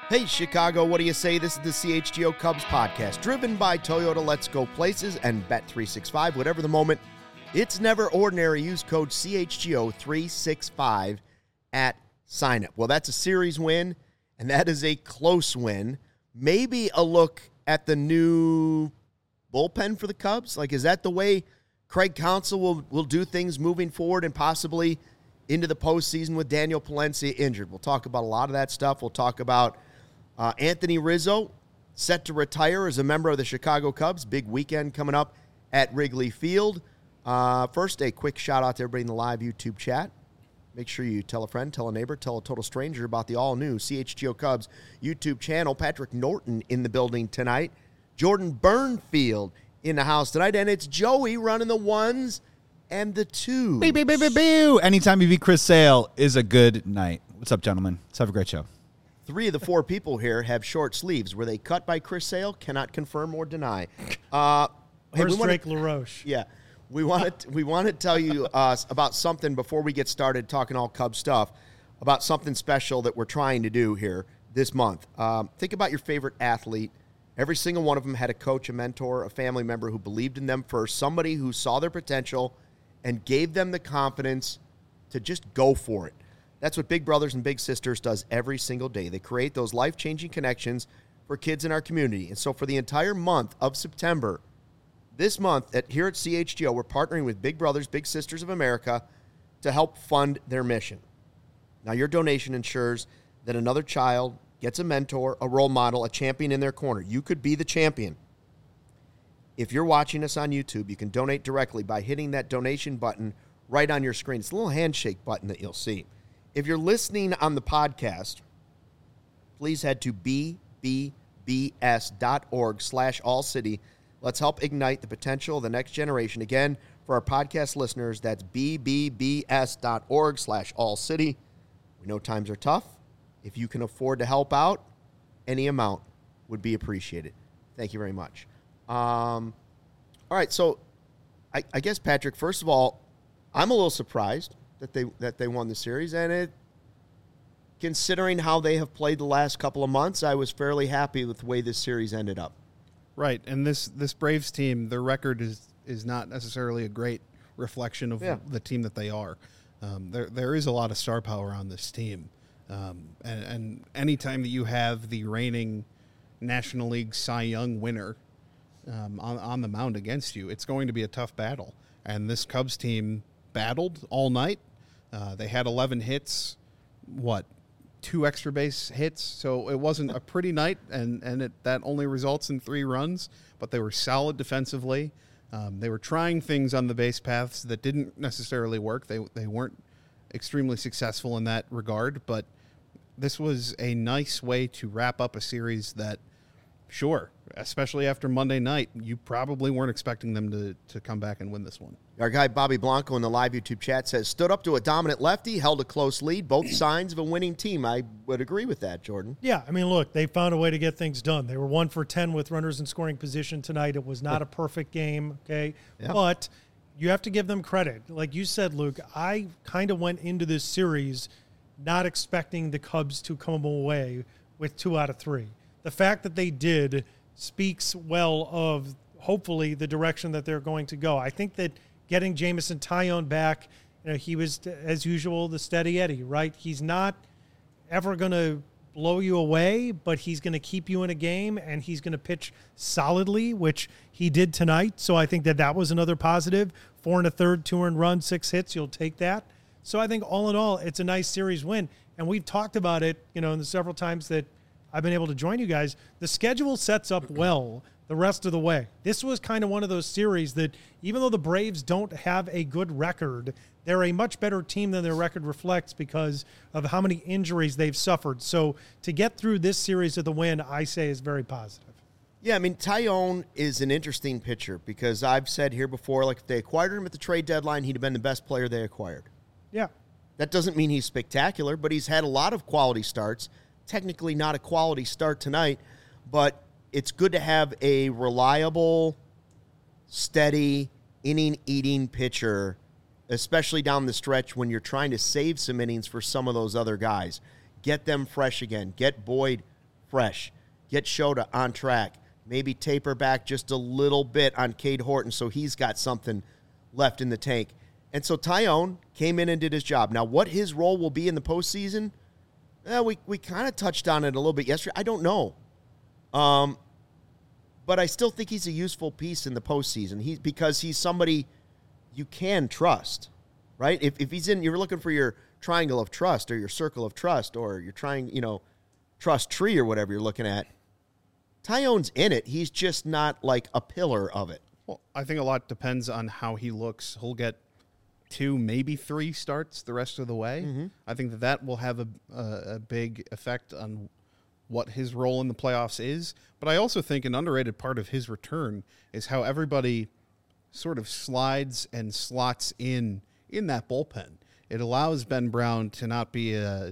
Hey, Chicago, what do you say? This is the CHGO Cubs podcast, driven by Toyota Let's Go Places and Bet365. Whatever the moment, it's never ordinary. Use code CHGO365 at sign-up. Well, that's a series win, and that is a close win. Maybe a look at the new bullpen for the Cubs. Like, is that the way Craig Counsell will do things moving forward and possibly into the postseason with Daniel Palencia injured? We'll talk about a lot of that stuff. We'll talk about Anthony Rizzo set to retire as a member of the Chicago Cubs. Big weekend coming up at Wrigley Field. First, a quick shout-out to everybody in the live YouTube chat. Make sure you tell a friend, tell a neighbor, tell a total stranger about the all-new CHGO Cubs YouTube channel. Patrick Norton in the building tonight. Jordan Burnfield in the house tonight. And it's Joey running the ones and the twos. Anytime you beat Chris Sale is a good night. What's up, gentlemen? Let's have a great show. 3 of the 4 people here have short sleeves. Were they cut by Chris Sale? Cannot confirm or deny. Where's Drake LaRoche? Yeah. We want to tell you about something before we get started talking all Cubs stuff, about something special that we're trying to do here this month. Think about your favorite athlete. Every single one of them had a coach, a mentor, a family member who believed in them first, somebody who saw their potential and gave them the confidence to just go for it. That's what Big Brothers and Big Sisters does every single day. They create those life-changing connections for kids in our community. And so for the entire month of September, this month here at CHGO, we're partnering with Big Brothers, Big Sisters of America to help fund their mission. Now, your donation ensures that another child gets a mentor, a role model, a champion in their corner. You could be the champion. If you're watching us on YouTube, you can donate directly by hitting that donation button right on your screen. It's a little handshake button that you'll see. If you're listening on the podcast, please head to bbbs.org/allcity. Let's help ignite the potential of the next generation. Again, for our podcast listeners, that's bbbs.org/allcity. We know times are tough. If you can afford to help out, any amount would be appreciated. Thank you very much. All right, so I guess, Patrick, first of all, I'm a little surprised that they won the series, and considering how they have played the last couple of months, I was fairly happy with the way this series ended up. Right, and this Braves team, their record is not necessarily a great reflection of the team that they are. There is a lot of star power on this team, and anytime that you have the reigning National League Cy Young winner on the mound against you, it's going to be a tough battle. And this Cubs team battled all night. They had 11 hits, 2 extra base hits, so it wasn't a pretty night, and that only results in 3 runs, but they were solid defensively. They were trying things on the base paths that didn't necessarily work. They weren't extremely successful in that regard, but this was a nice way to wrap up a series that, sure, especially after Monday night, you probably weren't expecting them to come back and win this one. Our guy Bobby Blanco in the live YouTube chat says, stood up to a dominant lefty, held a close lead, both signs of a winning team. I would agree with that, Jordan. Yeah, I mean, look, they found a way to get things done. They were 1 for 10 with runners in scoring position tonight. It was not a perfect game, okay? Yeah. But you have to give them credit. Like you said, Luke, I kind of went into this series not expecting the Cubs to come away with 2 out of 3. The fact that they did speaks well of, hopefully, the direction that they're going to go. I think that getting Jameson Taillon back, he was, as usual, the steady Eddie, right? He's not ever going to blow you away, but he's going to keep you in a game, and he's going to pitch solidly, which he did tonight. So I think that was another positive. 4 1/3, 2 earned runs, 6 hits. You'll take that. So I think all in all, it's a nice series win. And we've talked about it, in the several times that I've been able to join you guys. The schedule sets up well the rest of the way. This was kind of one of those series that, even though the Braves don't have a good record, they're a much better team than their record reflects because of how many injuries they've suffered. So to get through this series with the win, I say is very positive. Yeah, I mean, Taillon is an interesting pitcher because I've said here before, like, if they acquired him at the trade deadline, he'd have been the best player they acquired. Yeah. That doesn't mean he's spectacular, but he's had a lot of quality starts. Technically not a quality start tonight, but it's good to have a reliable, steady, inning-eating pitcher, especially down the stretch when you're trying to save some innings for some of those other guys. Get them fresh again. Get Boyd fresh. Get Shota on track. Maybe taper back just a little bit on Cade Horton so he's got something left in the tank. And so Taillon came in and did his job. Now, what his role will be in the postseason, we kind of touched on it a little bit yesterday. I don't know. But I still think he's a useful piece in the postseason because he's somebody you can trust, right? If he's in, you're looking for your triangle of trust or your circle of trust or your trust tree or whatever you're looking at. Taillon's in it. He's just not like a pillar of it. Well, I think a lot depends on how he looks. He'll get 2, maybe 3 starts the rest of the way. Mm-hmm. I think that will have a big effect on what his role in the playoffs is. But I also think an underrated part of his return is how everybody sort of slides and slots in that bullpen. It allows Ben Brown to not be a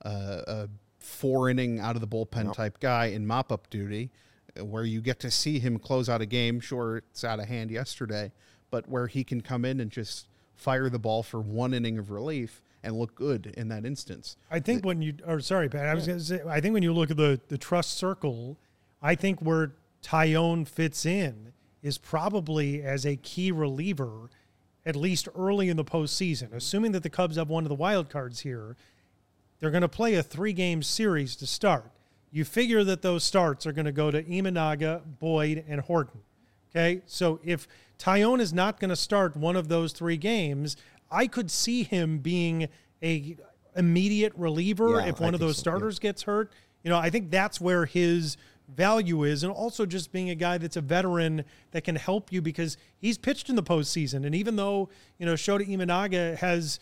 4-inning out of the bullpen type guy in mop-up duty, where you get to see him close out a game. Sure, it's out of hand yesterday, but where he can come in and just fire the ball for 1 inning of relief and look good in that instance. I think Pat, I was going to say, I think when you look at the trust circle, I think where Taillon fits in is probably as a key reliever, at least early in the postseason. Assuming that the Cubs have one of the wild cards here, they're going to play a 3-game series to start. You figure that those starts are going to go to Imanaga, Boyd, and Horton. Okay, so if Taillon is not going to start one of those 3 games, I could see him being a immediate reliever if one of those starters gets hurt. I think that's where his value is, and also just being a guy that's a veteran that can help you because he's pitched in the postseason. And even though, Shota Imanaga has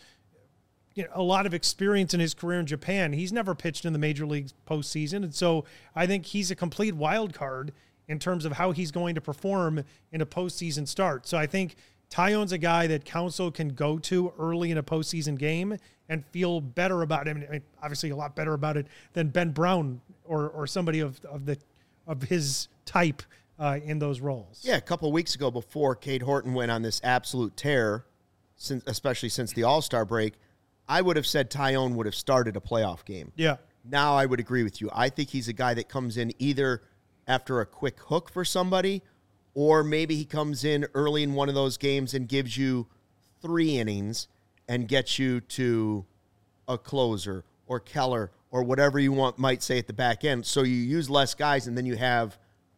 a lot of experience in his career in Japan, he's never pitched in the major leagues postseason. And so I think he's a complete wild card in terms of how he's going to perform in a postseason start. So I think Taillon's a guy that Counsell can go to early in a postseason game and feel better about him. I mean, obviously a lot better about it than Ben Brown or somebody of his type in those roles. Yeah, a couple of weeks ago before Cade Horton went on this absolute tear, especially since the All-Star break, I would have said Taillon would have started a playoff game. Yeah. Now I would agree with you. I think he's a guy that comes in either after a quick hook for somebody, or maybe he comes in early in one of those games and gives you 3 innings and gets you to a closer or Keller or whatever you might say at the back end. So you use less guys, and then you have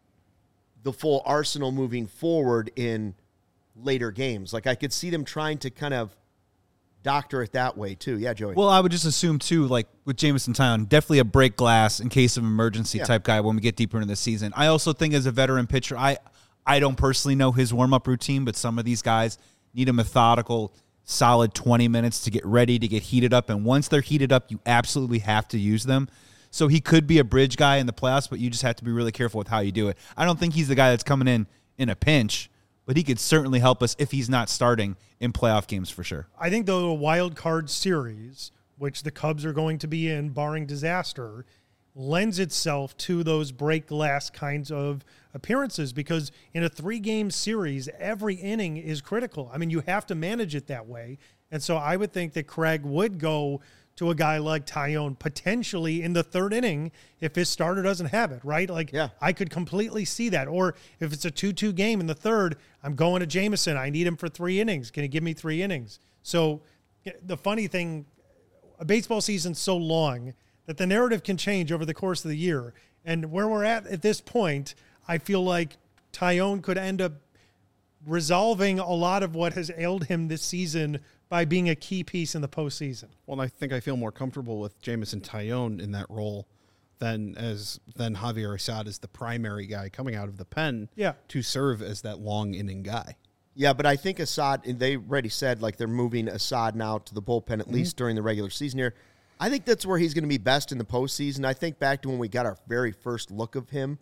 the full arsenal moving forward in later games. Like I could see them trying to kind of doctor it that way too. Yeah, Joey. Well, I would just assume too, like with Jameson Taillon, definitely a break glass in case of emergency type guy when we get deeper into the season. I also think as a veteran pitcher, I don't personally know his warm-up routine, but some of these guys need a methodical, solid 20 minutes to get ready, to get heated up. And once they're heated up, you absolutely have to use them. So he could be a bridge guy in the playoffs, but you just have to be really careful with how you do it. I don't think he's the guy that's coming in a pinch, but he could certainly help us if he's not starting in playoff games for sure. I think the wild card series, which the Cubs are going to be in, barring disaster, lends itself to those break glass kinds of appearances because in a 3-game series, every inning is critical. I mean, you have to manage it that way. And so I would think that Craig would go to a guy like Taillon potentially in the 3rd inning if his starter doesn't have it, right? I could completely see that. Or if it's a 2-2 game in the 3rd, I'm going to Jameson. I need him for 3 innings. Can he give me 3 innings? So the funny thing, a baseball season's so long that the narrative can change over the course of the year. And where we're at this point, I feel like Taillon could end up resolving a lot of what has ailed him this season by being a key piece in the postseason. Well, I think I feel more comfortable with Jameson Taillon in that role than Javier Assad as the primary guy coming out of the pen to serve as that long inning guy. Yeah, but I think Assad, they already said they're moving Assad now to the bullpen at least during the regular season here. I think that's where he's going to be best in the postseason. I think back to when we got our very first look of him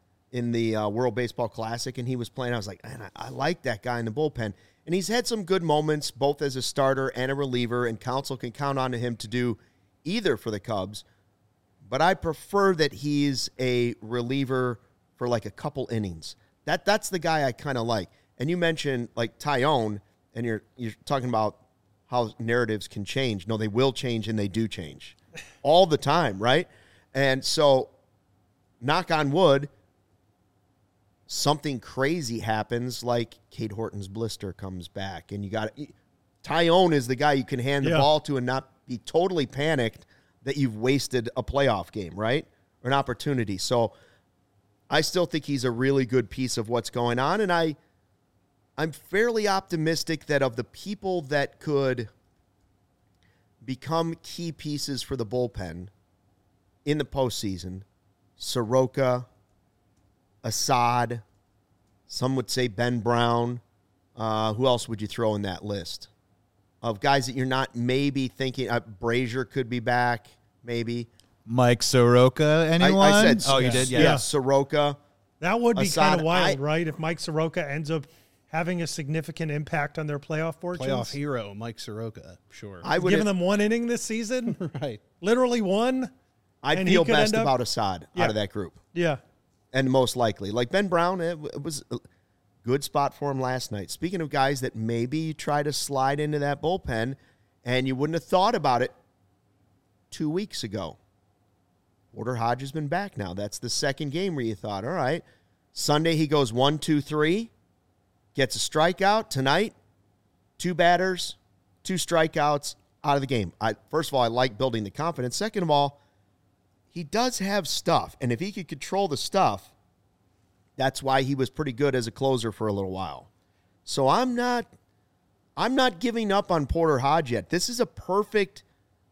in the World Baseball Classic, and he was playing. I was like, man, I like that guy in the bullpen. And he's had some good moments, both as a starter and a reliever, and Counsell can count on him to do either for the Cubs. But I prefer that he's a reliever for a couple innings. That's the guy I kind of like. And you mentioned Taillon, and you're talking about how narratives can change. No, they will change, and they do change all the time, right? And so knock on wood, something crazy happens, like Cade Horton's blister comes back, and you got Tyone is the guy you can hand the ball to and not be totally panicked that you've wasted a playoff game, right? Or an opportunity. So I still think he's a really good piece of what's going on, and I'm fairly optimistic that of the people that could become key pieces for the bullpen in the postseason, Soroka, Assad, some would say Ben Brown. Who else would you throw in that list of guys that you're not maybe thinking? Brazier could be back, maybe. Mike Soroka, anyone? I said, you did? Yeah, Soroka. That would be Assad, kind of wild, right? If Mike Soroka ends up having a significant impact on their playoff fortunes. Playoff hero, Mike Soroka, sure. I would given them one inning this season. Right. Literally one. I'd feel best about Assad out of that group. Yeah. And most likely. Like Ben Brown, it was a good spot for him last night. Speaking of guys that maybe you try to slide into that bullpen and you wouldn't have thought about it 2 weeks ago. Porter Hodge has been back now. That's the second game where you thought, all right, Sunday he goes 1, 2, 3, gets a strikeout. Tonight, 2 batters, 2 strikeouts, out of the game. First of all, I like building the confidence. Second of all, he does have stuff, and if he could control the stuff, that's why he was pretty good as a closer for a little while. So I'm not giving up on Porter Hodge yet. This is a perfect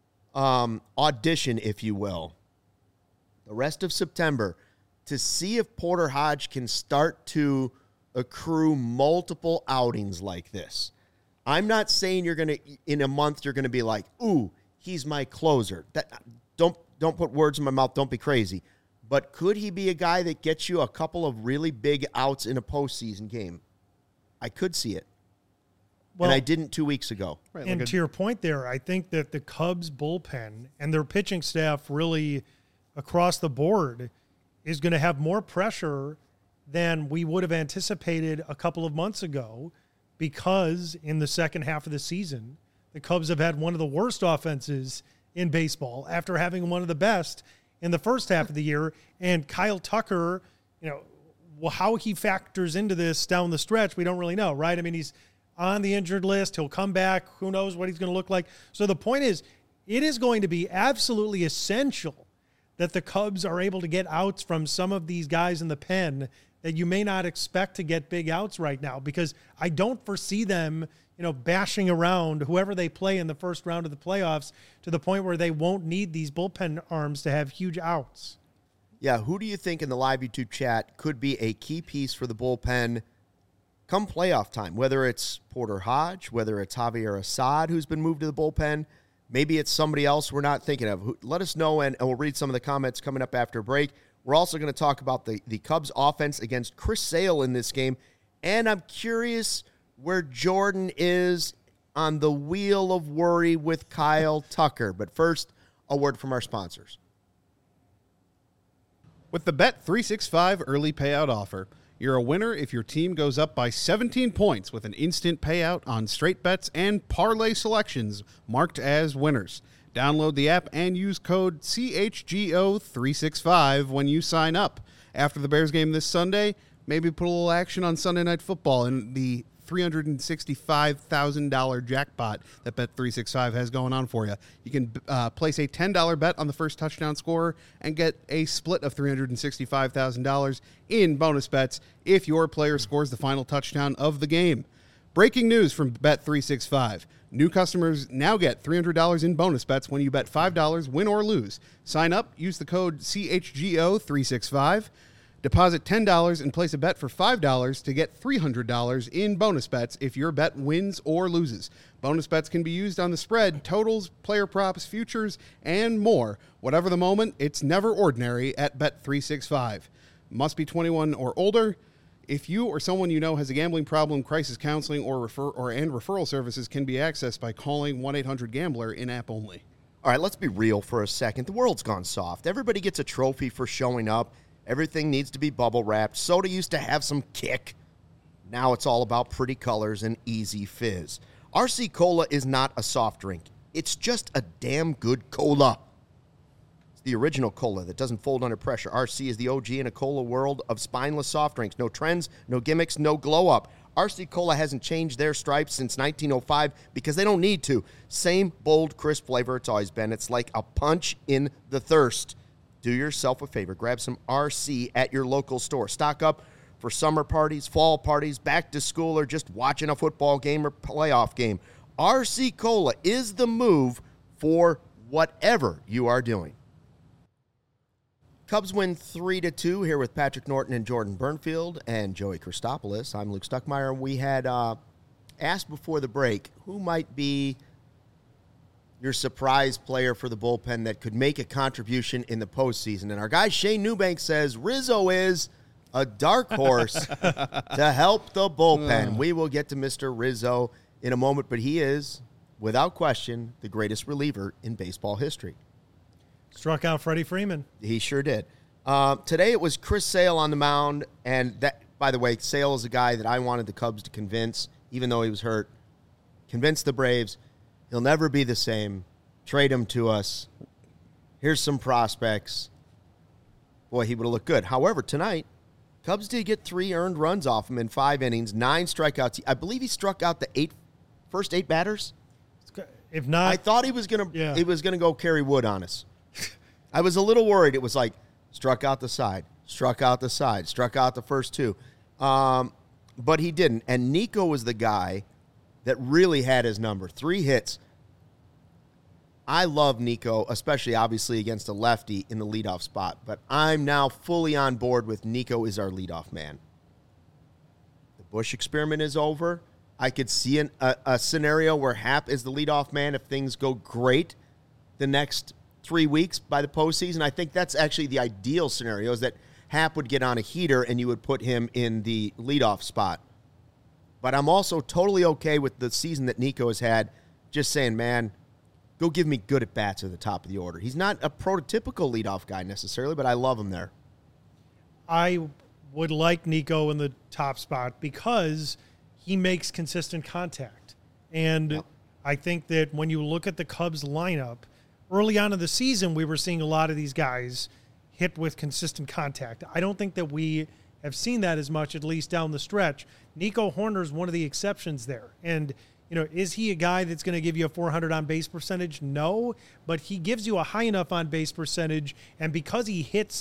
audition, if you will, the rest of September, to see if Porter Hodge can start to accrue multiple outings like this. I'm not saying you're going to, in a month, you're going to be like, ooh, he's my closer. Don't put words in my mouth. Don't be crazy. But could he be a guy that gets you a couple of really big outs in a postseason game? I could see it. Well, and I didn't 2 weeks ago. Right, and to your point there, I think that the Cubs bullpen and their pitching staff really across the board is going to have more pressure than we would have anticipated a couple of months ago, because in the second half of the season, the Cubs have had one of the worst offenses in baseball after having one of the best in the first half of the year. And Kyle Tucker, how he factors into this down the stretch, we don't really know, right? I mean, he's on the injured list. He'll come back. Who knows what he's going to look like? So the point is, it is going to be absolutely essential that the Cubs are able to get outs from some of these guys in the pen that you may not expect to get big outs right now, because I don't foresee them, bashing around whoever they play in the first round of the playoffs to the point where they won't need these bullpen arms to have huge outs. Yeah, who do you think in the live YouTube chat could be a key piece for the bullpen come playoff time? Whether it's Porter Hodge, whether it's Javier Assad, who's been moved to the bullpen, maybe it's somebody else we're not thinking of. Let us know, and we'll read some of the comments coming up after break. We're also going to talk about the Cubs offense against Chris Sale in this game, and I'm curious where Jordan is on the wheel of worry with Kyle Tucker. But first, a word from our sponsors. With the Bet365 early payout offer, you're a winner if your team goes up by 17 points with an instant payout on straight bets and parlay selections marked as winners. Download the app and use code CHGO365 when you sign up. After the Bears game this Sunday, maybe put a little action on Sunday Night Football and the $365,000 jackpot that Bet365 has going on for you. You can place a $10 bet on the first touchdown scorer and get a split of $365,000 in bonus bets if your player scores the final touchdown of the game. Breaking news from Bet365. New customers now get $300 in bonus bets when you bet $5, win or lose. Sign up, use the code CHGO365. Deposit $10 and place a bet for $5 to get $300 in bonus bets if your bet wins or loses. Bonus bets can be used on the spread, totals, player props, futures, and more. Whatever the moment, it's never ordinary at Bet365. Must be 21 or older. If you or someone you know has a gambling problem, crisis counseling and referral services can be accessed by calling 1-800-GAMBLER in-app only. All right, let's be real for a second. The world's gone soft. Everybody gets a trophy for showing up. Everything needs to be bubble wrapped. Soda used to have some kick. Now it's all about pretty colors and easy fizz. RC Cola is not a soft drink. It's just a damn good cola. It's the original cola that doesn't fold under pressure. RC is the OG in a cola world of spineless soft drinks. No trends, no gimmicks, no glow-up. RC Cola hasn't changed their stripes since 1905 because they don't need to. Same bold, crisp flavor it's always been. It's like a punch in the thirst. Do yourself a favor. Grab some RC at your local store. Stock up for summer parties, fall parties, back to school, or just watching a football game or playoff game. RC Cola is the move for whatever you are doing. Cubs win 3-2 here with Patrick Norton and Jordan Burnfield and Joey Christopoulos. I'm Luke Stuckmeyer. We had asked before the break who might be your surprise player for the bullpen that could make a contribution in the postseason. And our guy Shane Newbank says Rizzo is a dark horse to help the bullpen. We will get to Mr. Rizzo in a moment, but he is, without question, the greatest reliever in baseball history. Struck out Freddie Freeman. He sure did. Today it was Chris Sale on the mound, and that, by the way, Sale is a guy that I wanted the Cubs to convince, even though he was hurt. Convince the Braves. He'll never be the same. Trade him to us. Here's some prospects. Boy, he would have looked good. However, tonight, Cubs did get 3 earned runs off him in 5 innings, 9 strikeouts. I believe he struck out the first 8 batters. If not, I thought he was gonna go Kerry Wood on us. I was a little worried. It was like struck out the side, struck out the side, struck out the first 2. But he didn't. And Nico was the guy that really had his number. 3 hits. I love Nico, especially obviously against a lefty in the leadoff spot. But I'm now fully on board with Nico is our leadoff man. The Busch experiment is over. I could see a scenario where Happ is the leadoff man if things go great the next 3 weeks by the postseason. I think that's actually the ideal scenario, is that Happ would get on a heater and you would put him in the leadoff spot. But I'm also totally okay with the season that Nico has had, just saying, man, go give me good at-bats at the top of the order. He's not a prototypical leadoff guy necessarily, but I love him there. I would like Nico in the top spot because he makes consistent contact. And I think that when you look at the Cubs lineup, early on in the season, we were seeing a lot of these guys hit with consistent contact. I don't think that we have seen that as much, at least down the stretch. Nico Hoerner is one of the exceptions there. And, is he a guy that's going to give you a 400 on-base percentage? No, but he gives you a high enough on-base percentage, and because he hits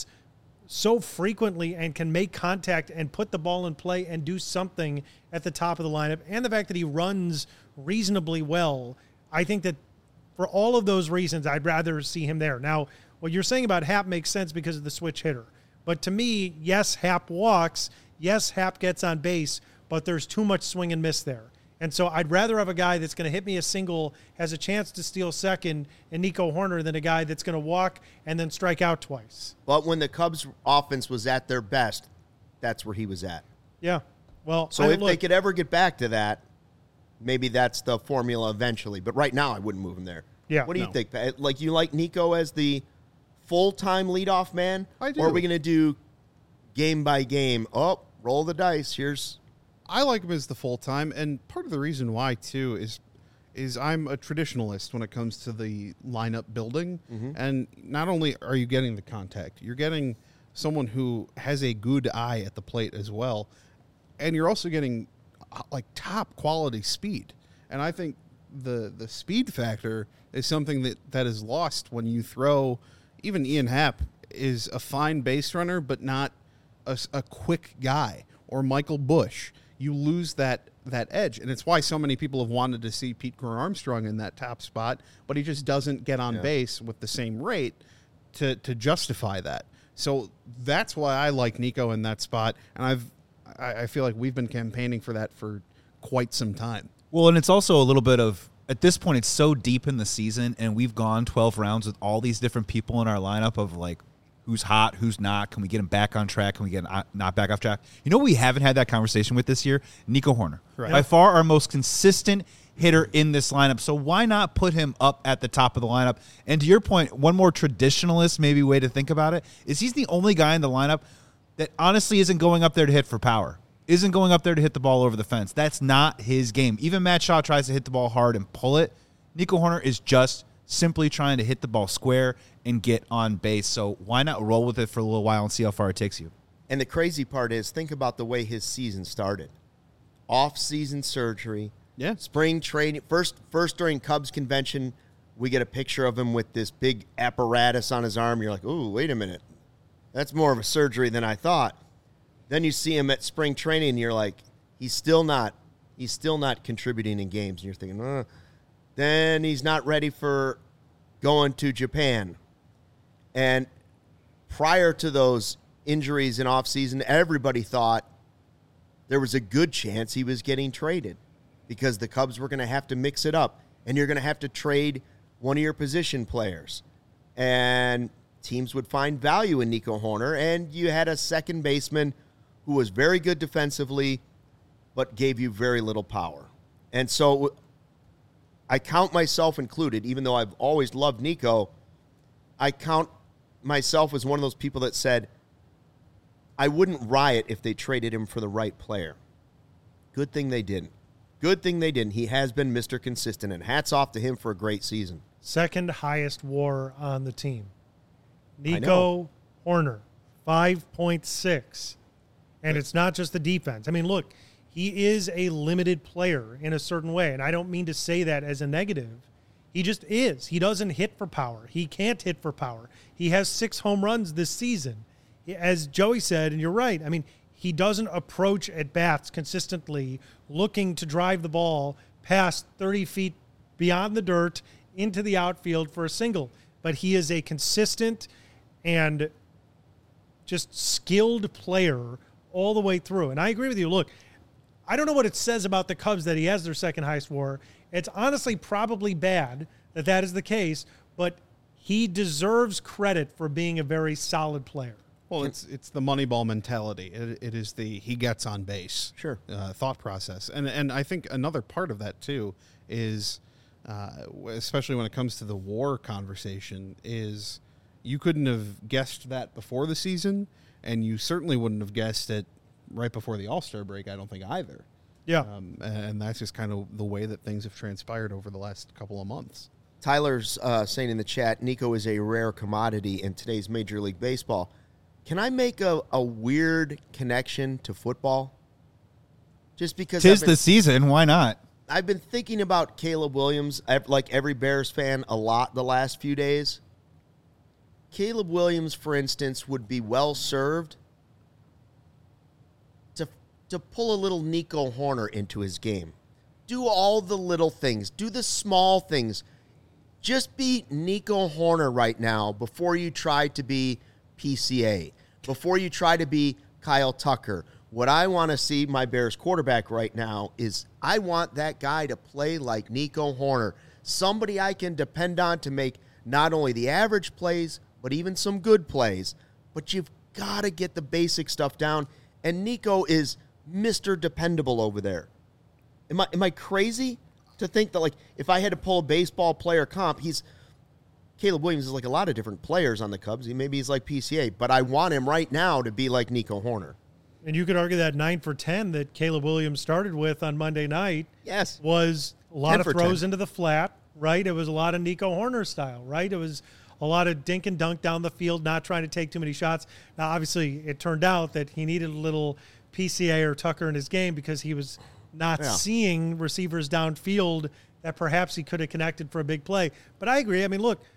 so frequently and can make contact and put the ball in play and do something at the top of the lineup, and the fact that he runs reasonably well, I think that for all of those reasons, I'd rather see him there. Now, what you're saying about Happ makes sense because of the switch hitter. But to me, yes, Happ walks. Yes, Happ gets on base, but there's too much swing and miss there. And so I'd rather have a guy that's going to hit me a single, has a chance to steal second, and Nico Hoerner, than a guy that's going to walk and then strike out twice. But when the Cubs offense was at their best, that's where he was at. Yeah. Well, so if they could ever get back to that, maybe that's the formula eventually. But right now, I wouldn't move him there. Yeah. What do you think, Pat? Like, you like Nico as the full-time leadoff man? I do. Or are we going to do game by game? Oh, roll the dice. I like him as the full-time, and part of the reason why, too, is I'm a traditionalist when it comes to the lineup building. Mm-hmm. And not only are you getting the contact, you're getting someone who has a good eye at the plate as well, and you're also getting like top quality speed. And I think the speed factor is something that is lost when you throw. Even Ian Happ is a fine base runner, but not a quick guy. Or Michael Busch. You lose that edge, and it's why so many people have wanted to see Pete Crow Armstrong in that top spot, but he just doesn't get on base with the same rate to justify that. So that's why I like Nico in that spot, and I feel like we've been campaigning for that for quite some time. Well, and it's also a little bit of, at this point, it's so deep in the season, and we've gone 12 rounds with all these different people in our lineup of like, who's hot, who's not? Can we get him back on track? Can we get him not back off track? You know, we haven't had that conversation with this year? Nico Hoerner. Right. By far our most consistent hitter in this lineup. So why not put him up at the top of the lineup? And to your point, one more traditionalist maybe way to think about it is he's the only guy in the lineup that honestly isn't going up there to hit for power, isn't going up there to hit the ball over the fence. That's not his game. Even Matt Shaw tries to hit the ball hard and pull it. Nico Hoerner is just simply trying to hit the ball square and get on base. So why not roll with it for a little while and see how far it takes you? And the crazy part is, think about the way his season started. Off-season surgery, spring training. First during Cubs convention, we get a picture of him with this big apparatus on his arm. You're like, ooh, wait a minute. That's more of a surgery than I thought. Then you see him at spring training, and you're like, he's still not contributing in games. And you're thinking, then he's not ready for going to Japan. And prior to those injuries in offseason, everybody thought there was a good chance he was getting traded because the Cubs were going to have to mix it up, and you're going to have to trade one of your position players. And teams would find value in Nico Hoerner, and you had a second baseman who was very good defensively but gave you very little power. And so I count myself included, even though I've always loved Nico, I count myself as one of those people that said, I wouldn't riot if they traded him for the right player. Good thing they didn't. Good thing they didn't. He has been Mr. Consistent, and hats off to him for a great season. Second highest WAR on the team. Nico Hoerner, 5.6. And it's not just the defense. I mean, look, he is a limited player in a certain way, and I don't mean to say that as a negative. He just is. He doesn't hit for power. He can't hit for power. He has 6 home runs this season. As Joey said, and you're right, I mean, he doesn't approach at-bats consistently looking to drive the ball past 30 feet beyond the dirt into the outfield for a single. But he is a consistent and just skilled player all the way through. And I agree with you. Look, I don't know what it says about the Cubs that he has their second highest WAR. It's honestly probably bad that that is the case, but he deserves credit for being a very solid player. Well, it's the Moneyball mentality. It is the he gets on base thought process. And I think another part of that, too, is, especially when it comes to the WAR conversation, is you couldn't have guessed that before the season, and you certainly wouldn't have guessed it right before the All-Star break, I don't think, either. Yeah. And that's just kind of the way that things have transpired over the last couple of months. Tyler's saying in the chat, Nico is a rare commodity in today's Major League Baseball. Can I make a weird connection to football? Just because 'tis the season, why not? I've been thinking about Caleb Williams, like every Bears fan, a lot the last few days. Caleb Williams, for instance, would be well served to pull a little Nico Hoerner into his game. Do all the little things. Do the small things. Just be Nico Hoerner right now before you try to be PCA, before you try to be Kyle Tucker. What I want to see my Bears quarterback right now is I want that guy to play like Nico Hoerner, somebody I can depend on to make not only the average plays, but even some good plays. But you've got to get the basic stuff down, and Nico is Mr. Dependable over there. Am I crazy to think that, like, if I had to pull a baseball player comp, Caleb Williams is like a lot of different players on the Cubs. Maybe he's like PCA, but I want him right now to be like Nico Hoerner. And you could argue that 9 for 10 that Caleb Williams started with on Monday night was a lot of throws into the flat, right? It was a lot of Nico Hoerner style, right? It was a lot of dink and dunk down the field, not trying to take too many shots. Now, obviously, it turned out that he needed a little PCA or Tucker in his game because he was not seeing receivers downfield that perhaps he could have connected for a big play. But I agree. I mean, look,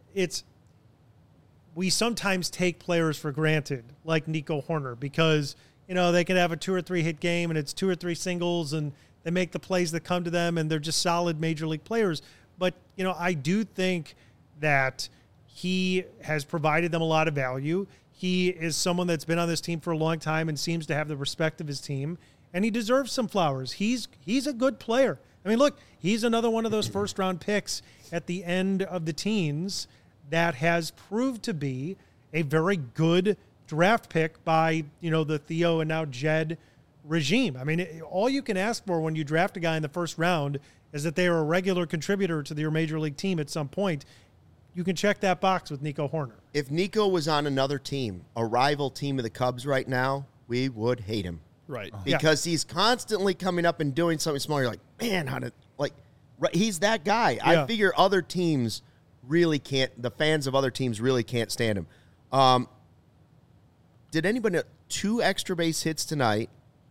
we sometimes take players for granted, like Nico Hoerner, because, you know, they can have a 2 or 3 hit game and it's 2 or 3 singles and they make the plays that come to them and they're just solid major league players. But, you know, I do think that he has provided them a lot of value. He is someone that's been on this team for a long time and seems to have the respect of his team, and he deserves some flowers. He's a good player. I mean, look, he's another one of those first-round picks at the end of the teens that has proved to be a very good draft pick by, you know, the Theo and now Jed regime. I mean, all you can ask for when you draft a guy in the first round is that they are a regular contributor to your major league team at some point. You can check that box with Nico Hoerner. If Nico was on another team, a rival team of the Cubs right now, we would hate him. Right. Because he's constantly coming up and doing something small. You're like, man, he's that guy. Yeah. I figure other teams really can't. The fans of other teams really can't stand him. Did anybody know 2 extra base hits tonight?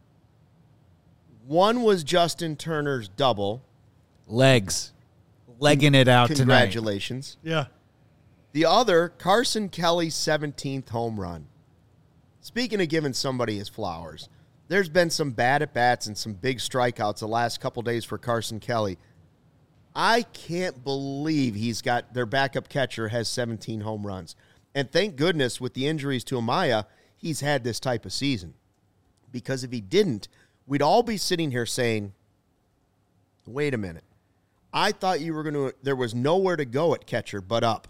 One was Justin Turner's double. Legging it out tonight. Congratulations. Yeah. The other, Carson Kelly's 17th home run. Speaking of giving somebody his flowers, there's been some bad at-bats and some big strikeouts the last couple days for Carson Kelly. I can't believe their backup catcher has 17 home runs. And thank goodness with the injuries to Amaya, he's had this type of season. Because if he didn't, we'd all be sitting here saying, wait a minute. I thought there was nowhere to go at catcher but up.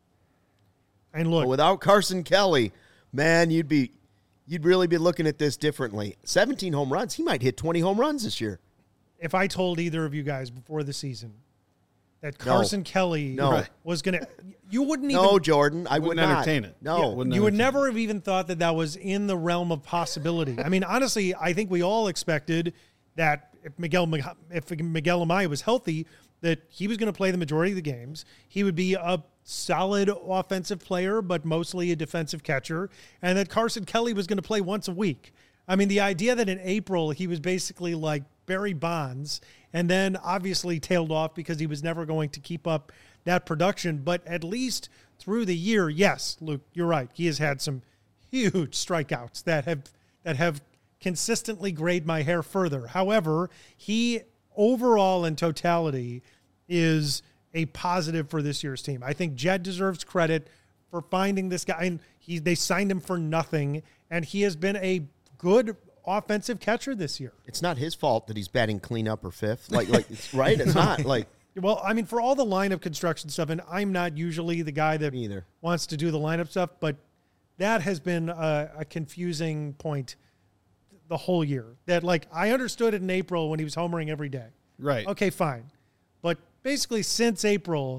And look, but without Carson Kelly, man, you'd really be looking at this differently. 17 home runs. He might hit 20 home runs this year. if I told either of you guys before the season that Carson Kelly was going to, you wouldn't even. No, Jordan, I would not entertain it. No. You would never have even thought that was in the realm of possibility. I mean, honestly, I think we all expected that if Miguel Amaya was healthy, that he was going to play the majority of the games. He would be a solid offensive player, but mostly a defensive catcher, and that Carson Kelly was going to play once a week. I mean, the idea that in April he was basically like Barry Bonds and then obviously tailed off because he was never going to keep up that production. But at least through the year, yes, Luke, you're right. He has had some huge strikeouts that have consistently grayed my hair further. However, he overall in totality is a positive for this year's team. I think Jed deserves credit for finding this guy. And they signed him for nothing, and he has been a good offensive catcher this year. It's not his fault that he's batting cleanup or fifth. Like it's right. It's not like. Well, I mean, for all the lineup construction stuff, and I'm not usually the guy that wants to do the lineup stuff, but that has been a confusing point the whole year. That, like, I understood it in April when he was homering every day. Right. Okay, fine. But basically since April,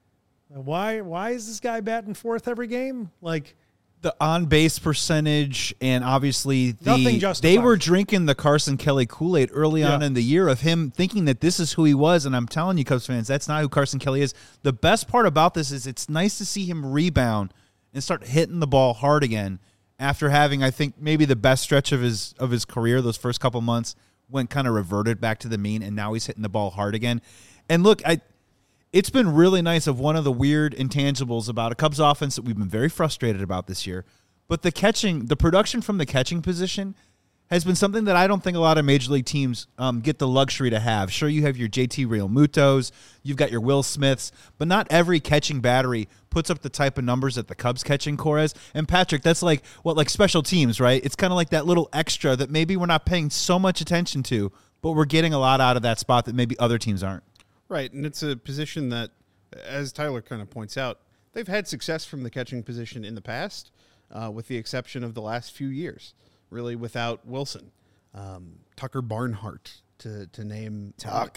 why is this guy batting fourth every game? Like, the on-base percentage, and obviously they were drinking the Carson Kelly Kool-Aid early on in the year of him thinking that this is who he was, and I'm telling you, Cubs fans, that's not who Carson Kelly is. The best part about this is it's nice to see him rebound and start hitting the ball hard again after having, I think, maybe the best stretch of his career. Those first couple months went kind of reverted back to the mean, and now he's hitting the ball hard again. And look, it's been really nice of one of the weird intangibles about a Cubs offense that we've been very frustrated about this year. But the production from the catching position has been something that I don't think a lot of Major League teams get the luxury to have. Sure, you have your JT Realmutos, you've got your Will Smiths, but not every catching battery puts up the type of numbers that the Cubs catching core has. And Patrick, that's like special teams, right? It's kind of like that little extra that maybe we're not paying so much attention to, but we're getting a lot out of that spot that maybe other teams aren't. Right, and it's a position that, as Tyler kind of points out, they've had success from the catching position in the past, with the exception of the last few years, really without Wilson. Tucker Barnhart, to name Tuck.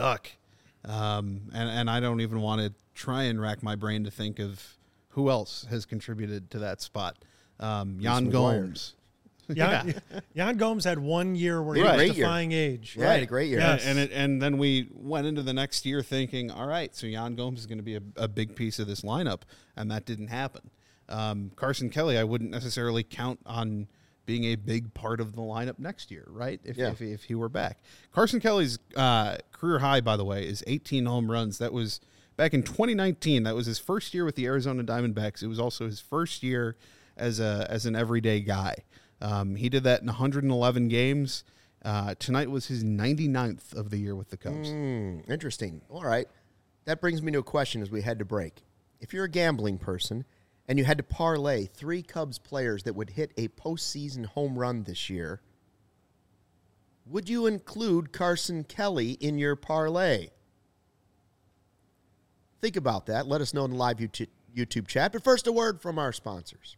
And I don't even want to try and rack my brain to think of who else has contributed to that spot. Yan Gomes. Yan Gomes had 1 year where he was defying age. Yeah, a great year. Yes. And then we went into the next year thinking, all right, so Yan Gomes is going to be a big piece of this lineup, and that didn't happen. Carson Kelly, I wouldn't necessarily count on being a big part of the lineup next year, right? If he were back. Carson Kelly's career high, by the way, is 18 home runs. That was back in 2019. That was his first year with the Arizona Diamondbacks. It was also his first year as an everyday guy. He did that in 111 games. Tonight was his 99th of the year with the Cubs. Interesting. All right. That brings me to a question as we head to break. If you're a gambling person and you had to parlay 3 Cubs players that would hit a postseason home run this year, would you include Carson Kelly in your parlay? Think about that. Let us know in the live YouTube chat. But first, a word from our sponsors.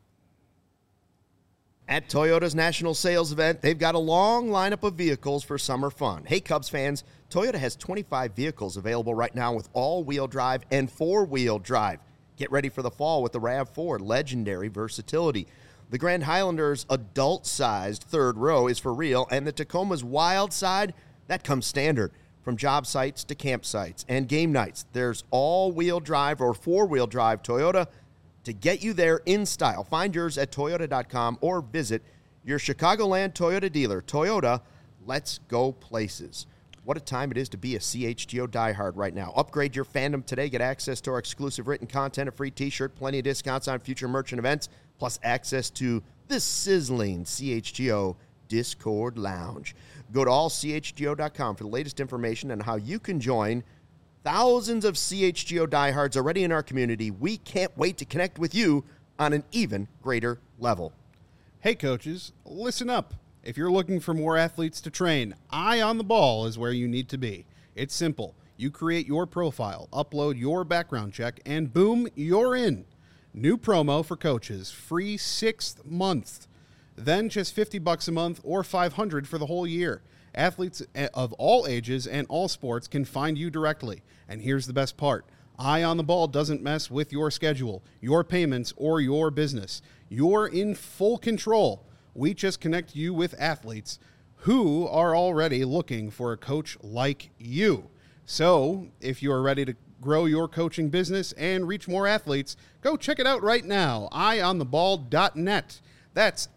At Toyota's National Sales Event, they've got a long lineup of vehicles for summer fun. Hey, Cubs fans, Toyota has 25 vehicles available right now with all-wheel drive and four-wheel drive. Get ready for the fall with the RAV4, legendary versatility. The Grand Highlander's adult-sized third row is for real, and the Tacoma's wild side, that comes standard. From job sites to campsites and game nights, there's all-wheel drive or four-wheel drive Toyota to get you there in style. Find yours at Toyota.com or visit your Chicagoland Toyota dealer. Toyota, let's go places. What a time it is to be a CHGO diehard right now. Upgrade your fandom today. Get access to our exclusive written content, a free t-shirt, plenty of discounts on future merchant events, plus access to the sizzling CHGO Discord Lounge. Go to allchgo.com for the latest information on how you can join thousands of CHGO diehards already in our community. We can't wait to connect with you on an even greater level. Hey, coaches, listen up. If you're looking for more athletes to train, Eye on the Ball is where you need to be. It's simple. You create your profile, upload your background check, and boom, you're in. New promo for coaches, free 6th month. Then just $50 a month or $500 for the whole year. Athletes of all ages and all sports can find you directly. And here's the best part. Eye on the Ball doesn't mess with your schedule, your payments, or your business. You're in full control. We just connect you with athletes who are already looking for a coach like you. So if you are ready to grow your coaching business and reach more athletes, go check it out right now. EyeOnTheBall.net. That's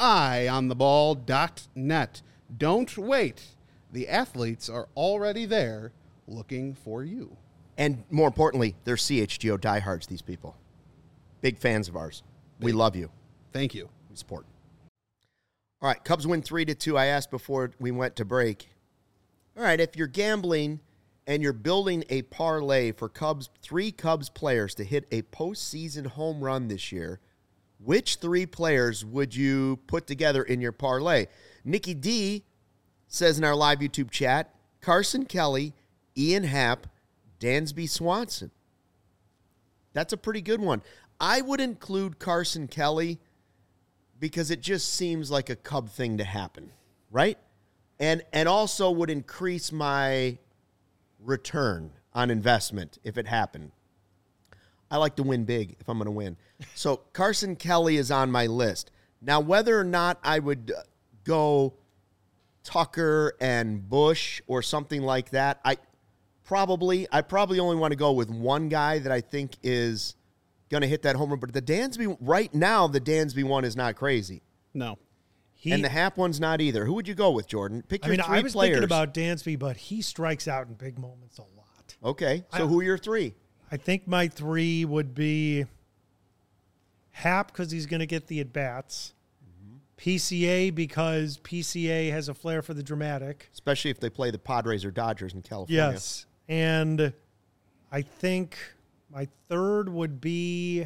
EyeOnTheBall.net. Don't wait. The athletes are already there looking for you. And more importantly, they're CHGO diehards, these people. Big fans of ours. We love you. Thank you. We support. All right, Cubs win 3-2. I asked before we went to break. All right, if you're gambling and you're building a parlay for three Cubs players to hit a postseason home run this year, which three players would you put together in your parlay? Nikki D says in our live YouTube chat, Carson Kelly, Ian Happ, Dansby Swanson. That's a pretty good one. I would include Carson Kelly because it just seems like a Cub thing to happen, right? And also would increase my return on investment if it happened. I like to win big if I'm going to win. So Carson Kelly is on my list. Now, whether or not I would go Tucker and Bush or something like that, I probably only want to go with one guy that I think is going to hit that home run. But the Dansby, right now, the Dansby one is not crazy. No. And the Happ one's not either. Who would you go with, Jordan? Pick your three players. I was thinking about Dansby, but he strikes out in big moments a lot. Okay, so who are your three? I think my three would be Happ because he's going to get the at-bats. PCA because PCA has a flair for the dramatic. Especially if they play the Padres or Dodgers in California. Yes. And I think my third would be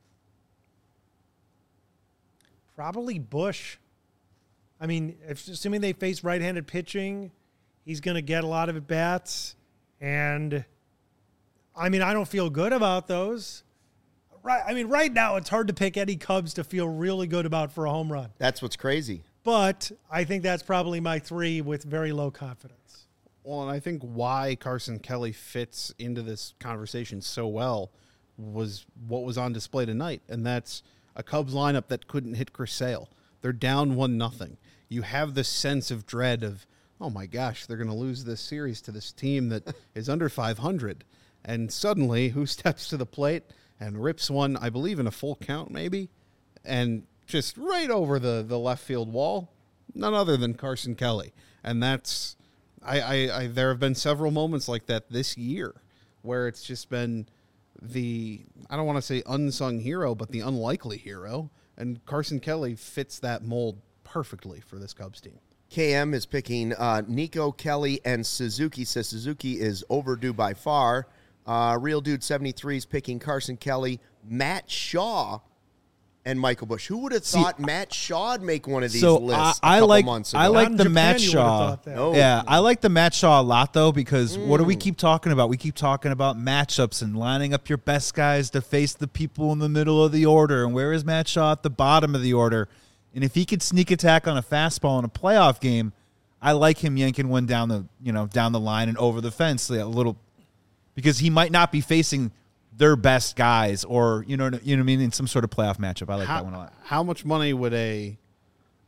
probably Bush. I mean, assuming they face right-handed pitching, he's going to get a lot of at-bats. And, I mean, I don't feel good about those. Right now it's hard to pick any Cubs to feel really good about for a home run. That's what's crazy. But I think that's probably my three with very low confidence. Well, and I think why Carson Kelly fits into this conversation so well was what was on display tonight, and that's a Cubs lineup that couldn't hit Chris Sale. They're down 1-0. You have this sense of dread of, oh my gosh, they're going to lose this series to this team that is under 500. And suddenly, who steps to the plate and rips one, I believe, in a full count maybe, and just right over the left field wall? None other than Carson Kelly. And that's, I there have been several moments like that this year where it's just been I don't want to say unsung hero, but the unlikely hero. And Carson Kelly fits that mold perfectly for this Cubs team. KM is picking Nico, Kelly, and Suzuki. Says Suzuki is overdue by far. Real Dude 73 is picking Carson Kelly, Matt Shaw, and Michael Busch. Who would have thought Matt Shaw'd make one of these lists a couple months ago? I like the Japan, Matt Shaw. No. Yeah, I like the Matt Shaw a lot, though, because what do we keep talking about? We keep talking about matchups and lining up your best guys to face the people in the middle of the order. And where is Matt Shaw? At the bottom of the order. And if he could sneak attack on a fastball in a playoff game, I like him yanking one down the line and over the fence a little, because he might not be facing their best guys, or you know what I mean, in some sort of playoff matchup. I like that one a lot. How much money would a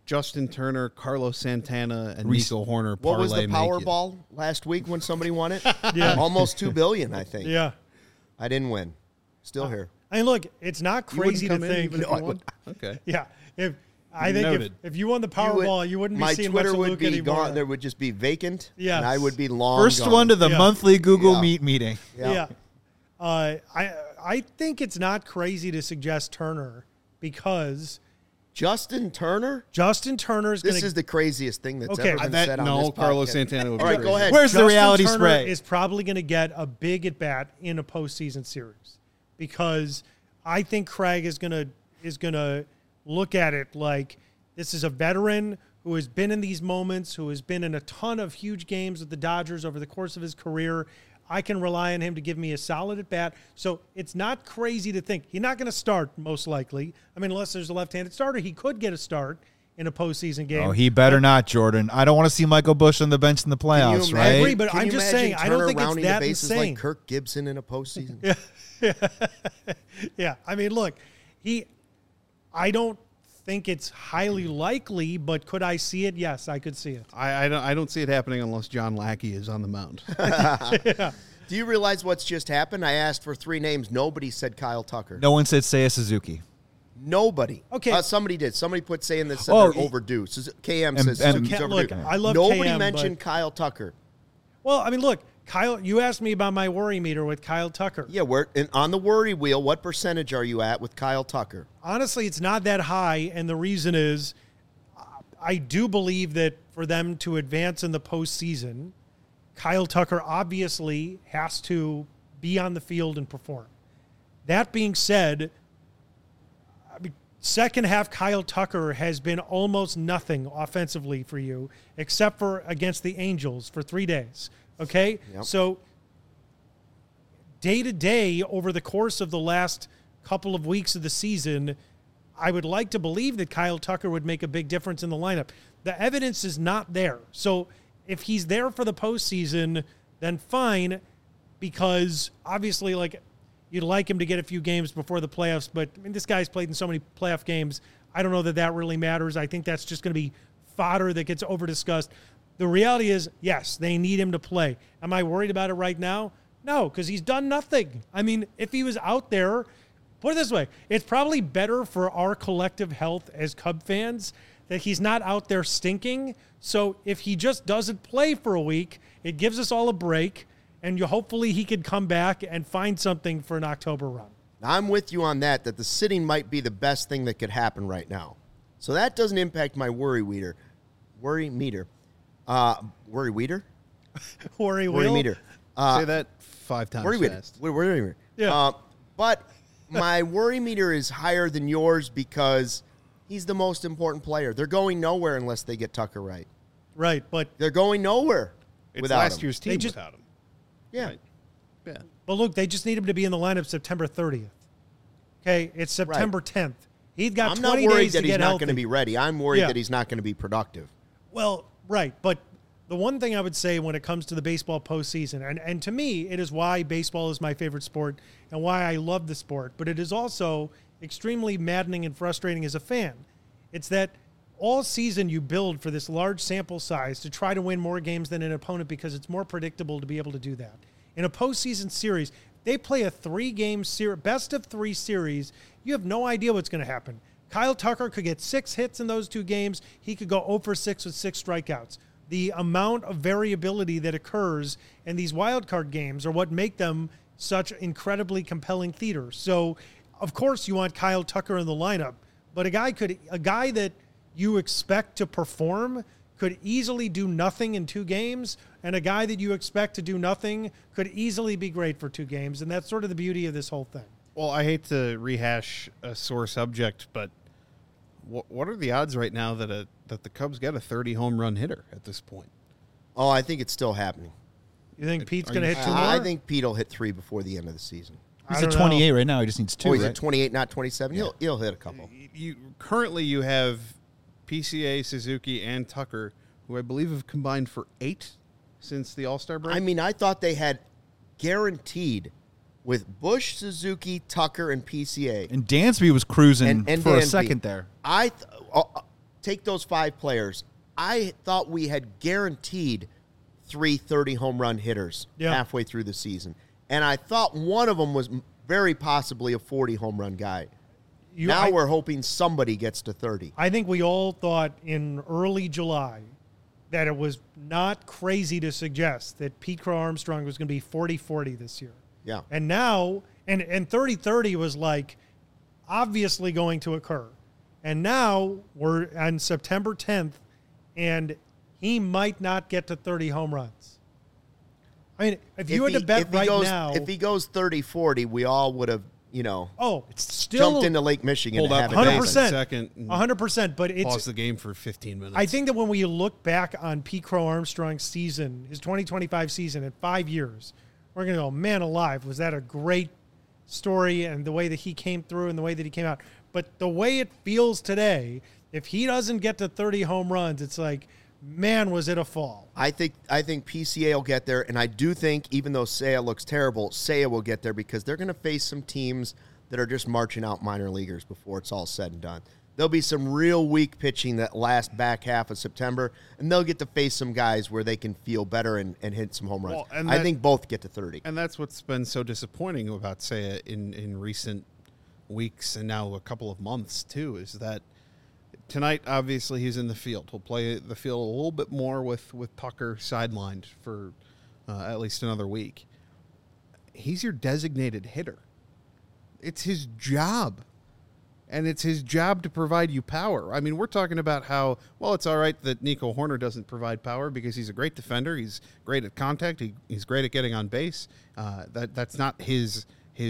Justin Turner, Carlos Santana, and Reese. Nico Horner What was parlay the make it? Powerball last week when somebody won it? Yeah. Almost $2 billion, I think. Yeah. I didn't win. Still here. I mean, look, it's not You wouldn't crazy to come in think. even if you won? Okay. Yeah. I think Noted. if you won the Powerball, you wouldn't be my seeing Twitter much of would Luke be anymore. gone. There would just be vacant. Yes. And I would be long First gone. one to the Yeah. monthly Google Yeah. Meet meeting. Yeah. I think it's not crazy to suggest Turner because Justin Turner? Justin Turner is going This to. is the craziest thing that's Okay. ever been That- said on no, this Carlos podcast. Santana would All be right, go crazy. ahead. Where's the Justin reality Turner spray? is probably going to get a big at bat in a postseason series because I think Craig is going to look at it like this is a veteran who has been in these moments, who has been in a ton of huge games with the Dodgers over the course of his career. I can rely on him to give me a solid at bat. So it's not crazy to think he's not going to start most likely. I mean, unless there's a left-handed starter, he could get a start in a postseason game. Oh, he better not, Jordan. I don't want to see Michael Bush on the bench in the playoffs, Can you right? imagine- I agree, but can I'm you just imagine saying, I don't Turner think it's rounding that the bases insane. like Kirk Gibson in a postseason? Yeah, I mean, look, I don't think it's highly likely, but could I see it? Yes, I could see it. I don't see it happening unless John Lackey is on the mound. Do you realize what's just happened? I asked for 3 names. Nobody said Kyle Tucker. No one said Seiya Suzuki. Nobody. Okay. Somebody did. Somebody put saying that said Oh, they're overdue. KM and- says and- Suzuki's Look, overdue. I love Nobody KM, mentioned but- Kyle Tucker. Well, I mean, look, Kyle, you asked me about my worry meter with Kyle Tucker. Yeah, on the worry wheel, what percentage are you at with Kyle Tucker? Honestly, it's not that high, and the reason is I do believe that for them to advance in the postseason, Kyle Tucker obviously has to be on the field and perform. That being said, second half Kyle Tucker has been almost nothing offensively for you, except for against the Angels for 3 days. Okay? Yep. So day to day over the course of the last couple of weeks of the season, I would like to believe that Kyle Tucker would make a big difference in the lineup. The evidence is not there. So if he's there for the postseason, then fine, because obviously, like, you'd like him to get a few games before the playoffs, but I mean, this guy's played in so many playoff games. I don't know that really matters. I think that's just going to be fodder that gets over-discussed. The reality is, yes, they need him to play. Am I worried about it right now? No, because he's done nothing. I mean, if he was out there, put it this way, it's probably better for our collective health as Cub fans that he's not out there stinking. So if he just doesn't play for a week, it gives us all a break, and hopefully he could come back and find something for an October run. I'm with you on that the sitting might be the best thing that could happen right now. So that doesn't impact my worry meter. Worry meter. Worry meter? Worry Worry meter. Say that 5 times Worry meter. fast. Worry meter. Yeah. But my worry meter is higher than yours because he's the most important player. They're going nowhere unless they get Tucker right. Right, but They're going nowhere It's without last him. year's team They just- without him. Yeah. Right. Yeah. look, they just need him to be in the lineup September 30th. Okay, it's September 10th. He's got I'm not 20 worried days that to he's get not healthy. going to be ready. I'm worried Yeah. that he's not going to be productive. Well, right, but the one thing I would say when it comes to the baseball postseason, and to me, it is why baseball is my favorite sport and why I love the sport, but it is also extremely maddening and frustrating as a fan. It's that all season you build for this large sample size to try to win more games than an opponent because it's more predictable to be able to do that. In a postseason series, they play a 3-game best of 3 series. You have no idea what's going to happen. Kyle Tucker could get 6 hits in those 2 games. He could go 0 for 6 with 6 strikeouts. The amount of variability that occurs in these wild card games are what make them such incredibly compelling theater. So, of course, you want Kyle Tucker in the lineup, but a guy that you expect to perform could easily do nothing in 2 games, and a guy that you expect to do nothing could easily be great for 2 games, and that's sort of the beauty of this whole thing. Well, I hate to rehash a sore subject, but what are the odds right now that the Cubs get a 30 home run hitter at this point? Oh, I think it's still happening. You think Pete's Are going to you hit 2 more? I think Pete will hit 3 before the end of the season. He's I at don't know. 28 right now. He just needs 2, Oh, he's right? at 28, not 27. He'll hit a couple. Currently you have PCA, Suzuki, and Tucker, who I believe have combined for 8 since the All-Star break. I mean, I thought they had guaranteed with Bush, Suzuki, Tucker, and PCA. And Dansby was cruising And for a Dansby. second there. take those 5 players. I thought we had guaranteed 3 30-home run hitters halfway through the season. And I thought one of them was very possibly a 40-home run guy. We're hoping somebody gets to 30. I think we all thought in early July that it was not crazy to suggest that Pete Crow Armstrong was going to be 40-40 this year. Yeah. And now, and 30-30 was like obviously going to occur. And now we're on September 10th, and he might not get to 30 home runs. I mean, if you had to bet right now. If he goes 30-40, we all would have, it's still jumped into Lake Michigan. Hold up 100%. 100%. But it's pause the game for 15 minutes. I think that when we look back on Pete Crow Armstrong's season, his 2025 season in 5 years, we're going to go, man alive, was that a great story, and the way that he came through and the way that he came out. But the way it feels today, if he doesn't get to 30 home runs, it's like, man, was it a fall. I think PCA will get there, and I do think, even though Seiya looks terrible, Seiya will get there because they're going to face some teams that are just marching out minor leaguers before it's all said and done. There'll be some real weak pitching that last back half of September, and they'll get to face some guys where they can feel better and hit some home runs. Well, I think both get to 30. And that's what's been so disappointing about Seiya in recent weeks and now a couple of months, too, is that tonight, obviously, he's in the field. He'll play the field a little bit more with Tucker sidelined for at least another week. He's your designated hitter. It's his job. And it's his job to provide you power. I mean, we're talking about how, well, it's all right that Nico Horner doesn't provide power because he's a great defender. He's great at contact. He's great at getting on base. That's not his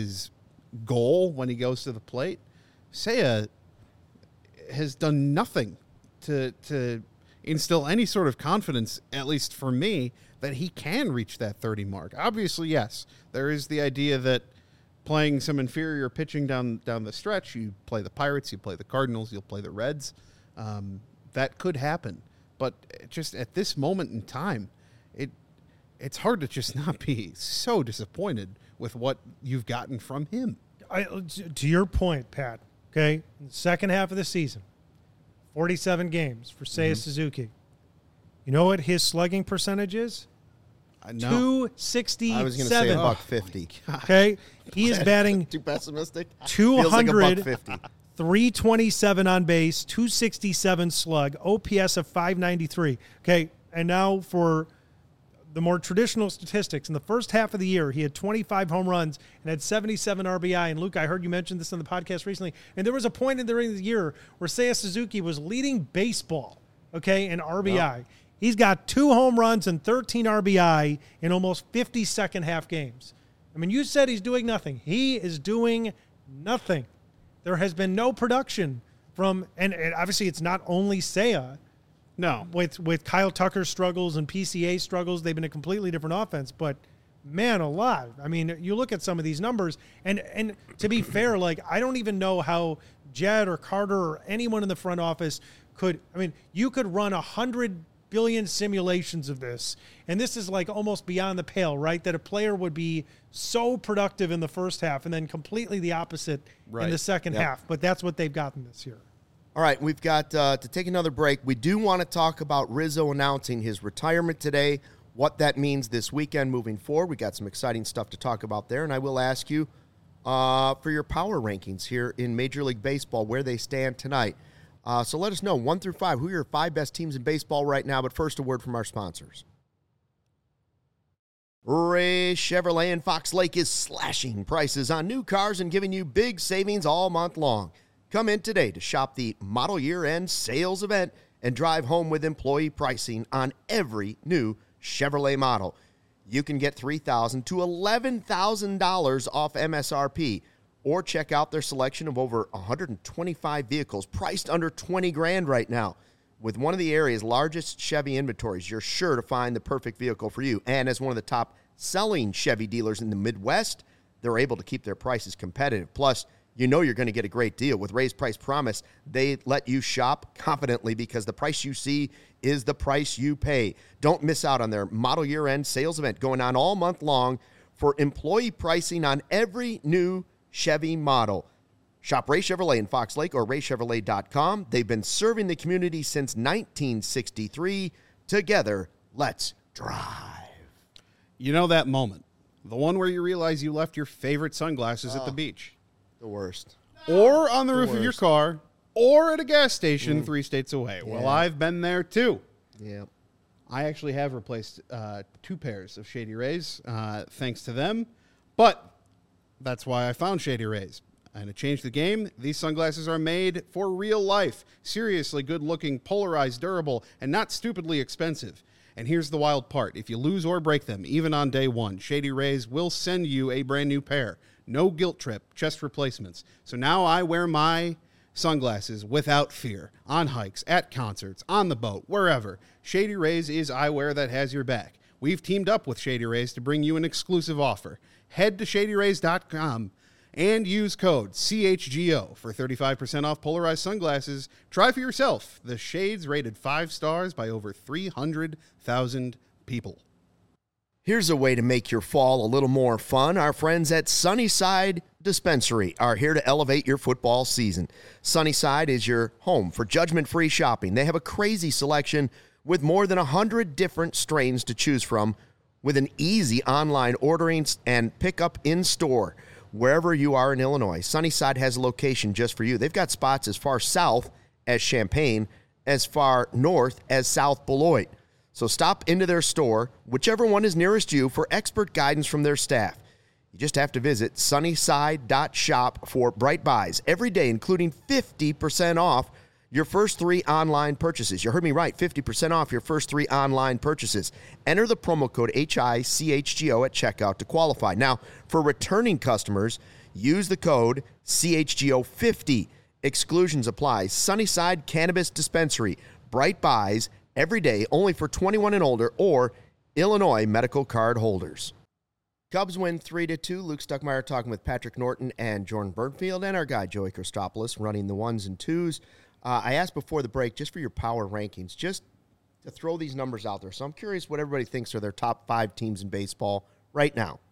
goal when he goes to the plate. Seiya has done nothing to instill any sort of confidence, at least for me, that he can reach that 30 mark. Obviously, yes, there is the idea that playing some inferior pitching down the stretch, you play the Pirates, you play the Cardinals, you'll play the Reds. That could happen. But just at this moment in time, it's hard to just not be so disappointed with what you've gotten from him. To your point, Pat, okay, in the second half of the season, 47 games for Seiya Suzuki. You know what his slugging percentage is? No. 267. I was going to say $150. Okay, he is batting too pessimistic. 200, like 327 on base, 267 slug, OPS of 593. Okay, and now for the more traditional statistics, in the first half of the year, he had 25 home runs and had 77 RBI. And Luke, I heard you mention this on the podcast recently. And there was a point during the year where Seiya Suzuki was leading baseball, okay, in RBI. Wow. He's got 2 home runs and 13 RBI in almost 50 second half games. I mean, you said he's doing nothing. He is doing nothing. There has been no production from, and obviously it's not only Seiya. No, with Kyle Tucker's struggles and PCA struggles, they've been a completely different offense. But man alive, I mean, you look at some of these numbers, and to be fair, like, I don't even know how Jed or Carter or anyone in the front office could. I mean, you could run 100 billion simulations of this, and this is like almost beyond the pale, right? That a player would be so productive in the first half and then completely the opposite in the second half. But that's what they've gotten this year. All right, we've got to take another break. We do want to talk about Rizzo announcing his retirement today, what that means this weekend moving forward. We got some exciting stuff to talk about there, and I will ask you for your power rankings here in Major League Baseball, where they stand tonight. So let us know, 1 through 5, who are your 5 best teams in baseball right now. But first, a word from our sponsors. Ray Chevrolet in Fox Lake is slashing prices on new cars and giving you big savings all month long. Come in today to shop the model year-end sales event and drive home with employee pricing on every new Chevrolet model. You can get $3,000 to $11,000 off MSRP, or check out their selection of over 125 vehicles priced under $20,000 right now. With one of the area's largest Chevy inventories, you're sure to find the perfect vehicle for you. And as one of the top selling Chevy dealers in the Midwest, they're able to keep their prices competitive. Plus, you know you're going to get a great deal. With Ray's Price Promise, they let you shop confidently because the price you see is the price you pay. Don't miss out on their model year-end sales event going on all month long for employee pricing on every new Chevy model. Shop Ray Chevrolet in Fox Lake or raychevrolet.com. They've been serving the community since 1963. Together, let's drive. You know that moment, the one where you realize you left your favorite sunglasses at the beach. The worst. Or on the roof of your car, or at a gas station 3 states away. Yeah. Well, I've been there too. Yeah. I actually have replaced 2 pairs of Shady Rays, thanks to them. But that's why I found Shady Rays. And to change the game, these sunglasses are made for real life. Seriously good-looking, polarized, durable, and not stupidly expensive. And here's the wild part. If you lose or break them, even on day one, Shady Rays will send you a brand new pair. No guilt trip, just replacements. So now I wear my sunglasses without fear. On hikes, at concerts, on the boat, wherever. Shady Rays is eyewear that has your back. We've teamed up with Shady Rays to bring you an exclusive offer. Head to shadyrays.com and use code CHGO for 35% off polarized sunglasses. Try for yourself. The shades rated 5 stars by over 300,000 people. Here's a way to make your fall a little more fun. Our friends at Sunnyside Dispensary are here to elevate your football season. Sunnyside is your home for judgment-free shopping. They have a crazy selection with more than 100 different strains to choose from, with an easy online ordering and pickup in store. Wherever you are in Illinois, Sunnyside has a location just for you. They've got spots as far south as Champaign, as far north as South Beloit. So stop into their store, whichever one is nearest you, for expert guidance from their staff. You just have to visit sunnyside.shop for bright buys every day, including 50% off your first 3 online purchases. You heard me right, 50% off your first 3 online purchases. Enter the promo code HICHGO at checkout to qualify. Now, for returning customers, use the code CHGO50. Exclusions apply. Sunnyside Cannabis Dispensary. Bright buys every day, only for 21 and older or Illinois medical card holders. Cubs win 3-2. Luke Stuckmeyer talking with Patrick Norton and Jordan Burnfield, and our guy Joey Christopoulos running the 1s and 2s. I asked before the break, just for your power rankings, just to throw these numbers out there. So I'm curious what everybody thinks are their top 5 teams in baseball right now.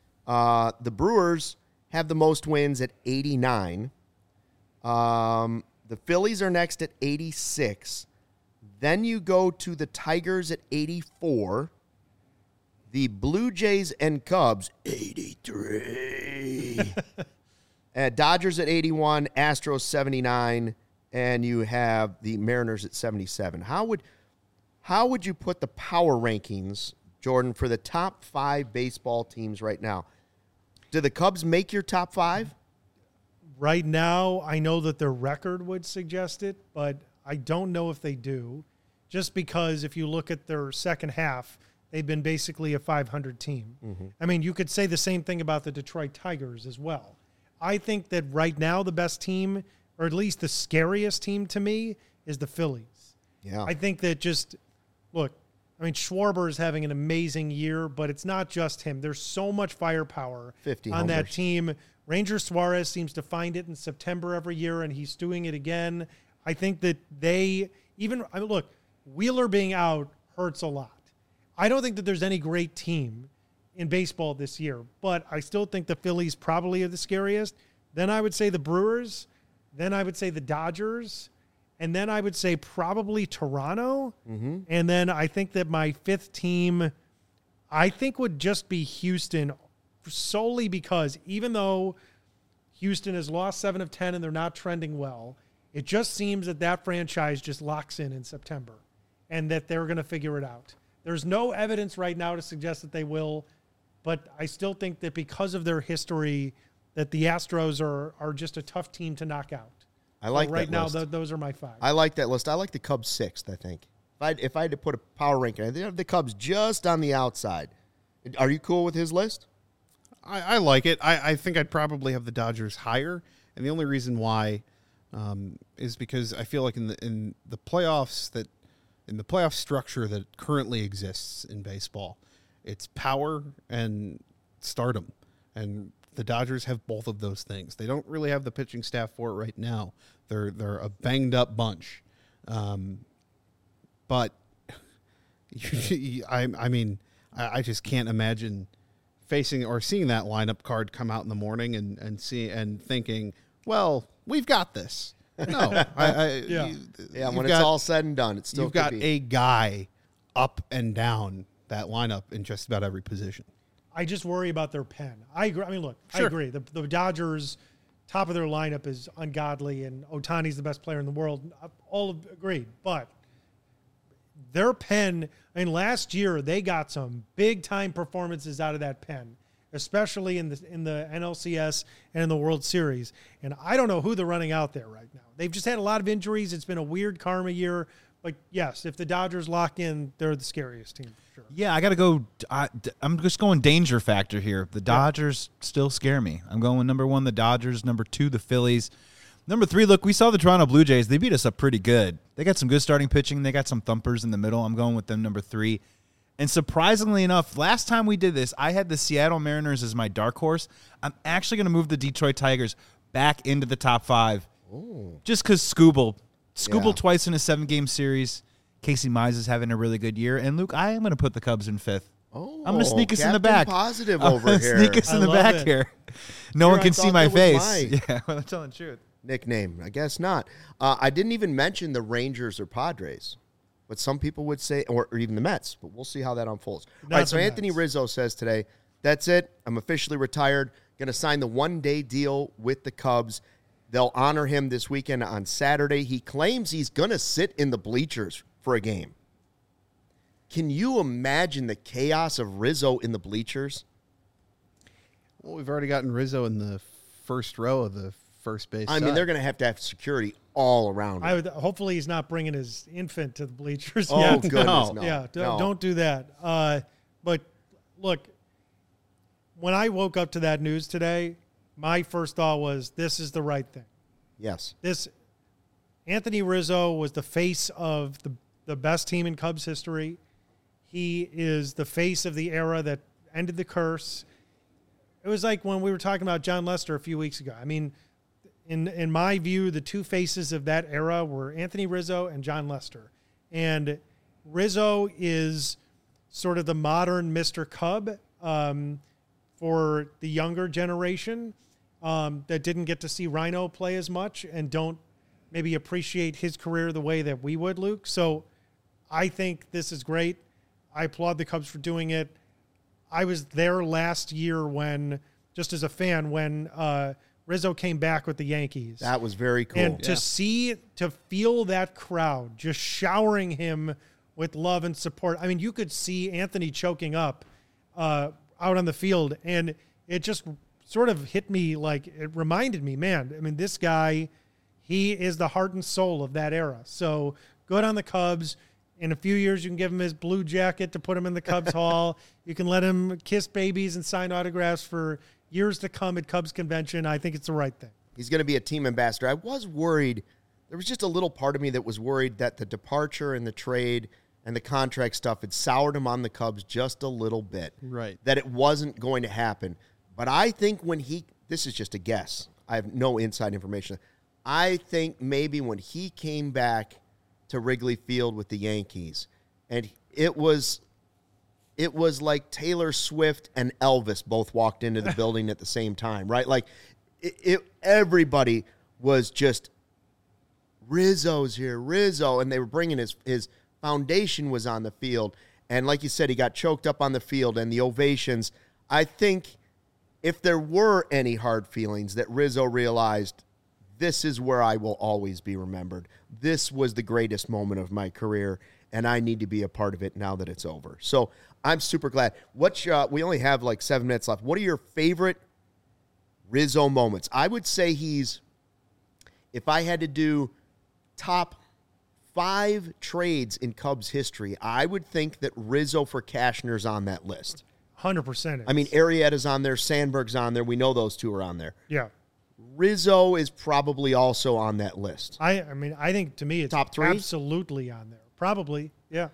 The Brewers have the most wins at 89. The Phillies are next at 86. Then you go to the Tigers at 84. The Blue Jays and Cubs, 83. Dodgers at 81. Astros, 79. And you have the Mariners at 77. How would you put the power rankings, Jordan, for the top 5 baseball teams right now? Do the Cubs make your top 5? Right now, I know that their record would suggest it, but I don't know if they do. Just because if you look at their second half, they've been basically a 500 team. Mm-hmm. I mean, you could say the same thing about the Detroit Tigers as well. I think that right now the best team, or at least the scariest team to me, is the Phillies. Yeah. I think that Schwarber is having an amazing year, but it's not just him. There's so much firepower on that team. Ranger Suarez seems to find it in September every year, and he's doing it again. I think that Wheeler being out hurts a lot. I don't think that there's any great team in baseball this year, but I still think the Phillies probably are the scariest. Then I would say the Brewers. Then I would say the Dodgers. And then I would say probably Toronto. Mm-hmm. And then I think that my 5th team, I think, would just be Houston, solely because even though Houston has lost 7 of 10 and they're not trending well, it just seems that franchise just locks in September and that they're going to figure it out. There's no evidence right now to suggest that they will, but I still think that because of their history, that the Astros are just a tough team to knock out. I like right that list. Now, those are my 5. I like that list. I like the Cubs 6th, I think. If I had to put a power ranking, I think have the Cubs just on the outside. Are you cool with his list? I like it. I think I'd probably have the Dodgers higher, and the only reason why is because I feel like in the playoffs in the playoff structure that currently exists in baseball, it's power and stardom, and the Dodgers have both of those things. They don't really have the pitching staff for it right now. They're a banged up bunch, but I just can't imagine facing or seeing that lineup card come out in the morning and thinking, well, we've got this. No, When it's all said and done, it's still you've got a guy up and down that lineup in just about every position. I just worry about their pen. I agree. I mean, look, Sure. I agree. The Dodgers, top of their lineup is ungodly, and Ohtani's the best player in the world. All agreed. But their pen, I mean, last year they got some big-time performances out of that pen, especially in the NLCS and in the World Series. And I don't know who they're running out there right now. They've just had a lot of injuries. It's been a weird karma year. But, yes, if the Dodgers lock in, they're the scariest team for sure. Yeah, I got to go. I'm just going danger factor here. The Dodgers still scare me. I'm going number 1, the Dodgers. Number 2, the Phillies. Number 3, look, we saw the Toronto Blue Jays. They beat us up pretty good. They got some good starting pitching. They got some thumpers in the middle. I'm going with them, number 3. And surprisingly enough, last time we did this, I had the Seattle Mariners as my dark horse. I'm actually going to move the Detroit Tigers back into the top 5. Ooh. Just because Scooble twice in a 7-game series. Casey Mize is having a really good year. And, Luke, I am going to put the Cubs in 5th. Oh, I'm going to sneak us in the back. Positive over here. Sneak us in the back here. No one can see my face. Yeah, well, I'm telling the truth. Nickname, I guess not. I didn't even mention the Rangers or Padres. But some people would say, or even the Mets, but we'll see how that unfolds. All right, so Anthony Rizzo says today, that's it. I'm officially retired. Going to sign the one-day deal with the Cubs. They'll honor him this weekend on Saturday. He claims he's going to sit in the bleachers for a game. Can you imagine the chaos of Rizzo in the bleachers? Well, we've already gotten Rizzo in the first row of the first base. I mean, they're going to have security all around him. Hopefully he's not bringing his infant to the bleachers. Oh, yet. goodness, no. Yeah, don't do that. But look, when I woke up to that news today, my first thought was, this is the right thing. Yes. Anthony Rizzo was the face of the best team in Cubs history. He is the face of the era that ended the curse. It was like when we were talking about John Lester a few weeks ago. I mean, in my view, the two faces of that era were Anthony Rizzo and John Lester. And Rizzo is sort of the modern Mr. Cub for the younger generation that didn't get to see Rhino play as much and don't maybe appreciate his career the way that we would, Luke. So I think this is great. I applaud the Cubs for doing it. I was there last year when, just as a fan, when Rizzo came back with the Yankees. That was very cool. And to feel that crowd just showering him with love and support. I mean, you could see Anthony choking up out on the field, and it just sort of hit me like, it reminded me, man, I mean, this guy, he is the heart and soul of that era. So good on the Cubs. In a few years, you can give him his blue jacket to put him in the Cubs Hall. You can let him kiss babies and sign autographs for years to come at Cubs convention. I think it's the right thing. He's going to be a team ambassador. I was worried. There was just a little part of me that was worried that the departure and the trade and the contract stuff had soured him on the Cubs just a little bit. Right. That it wasn't going to happen. But I think this is just a guess. I have no inside information. I think maybe when he came back to Wrigley Field with the Yankees, and it was like Taylor Swift and Elvis both walked into the building at the same time, right? Like everybody was just, Rizzo's here, Rizzo, and they were bringing his foundation was on the field, and like you said, he got choked up on the field, and the ovations. I think if there were any hard feelings, that Rizzo realized, this is where I will always be remembered. This was the greatest moment of my career, and I need to be a part of it now that it's over. So I'm super glad. We only have like 7 minutes left. What are your favorite Rizzo moments? I would say if I had to do top 5 trades in Cubs history, I would think that Rizzo for Cashner's on that list. 100%. I mean, Arrieta's on there, Sandberg's on there. We know those two are on there. Yeah. Rizzo is probably also on that list. I mean, I think to me it's top 3? Absolutely on there. Probably, yeah.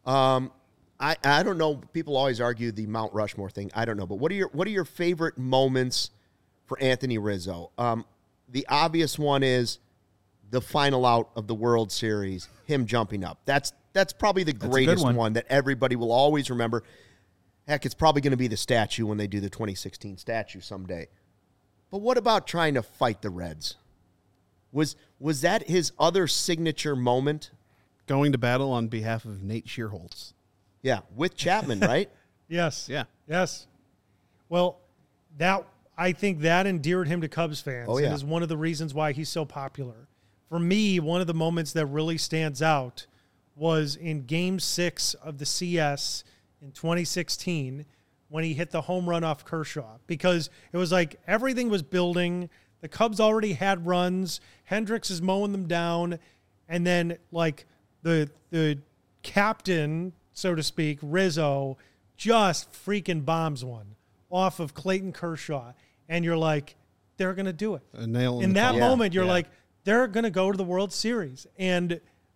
I don't know. People always argue the Mount Rushmore thing. I don't know, but what are your favorite moments for Anthony Rizzo? The obvious one is the final out of the World Series, him jumping up. That's probably the greatest one that everybody will always remember. Heck, it's probably going to be the statue when they do the 2016 statue someday. But what about trying to fight the Reds? Was that his other signature moment? Going to battle on behalf of Nate Shearholtz. Yeah, with Chapman, right? Yes. Yeah. Yes. Well, I think that endeared him to Cubs fans. Oh, yeah. And is one of the reasons why he's so popular. For me, one of the moments that really stands out was in Game 6 of the CS in 2016 when he hit the home run off Kershaw, because it was like everything was building. The Cubs already had runs. Hendricks is mowing them down. And then, like, the captain, so to speak, Rizzo, just freaking bombs one off of Clayton Kershaw. And you're like, they're going to do it. A nail in that moment, you're yeah. like, they're going to go to the World Series. And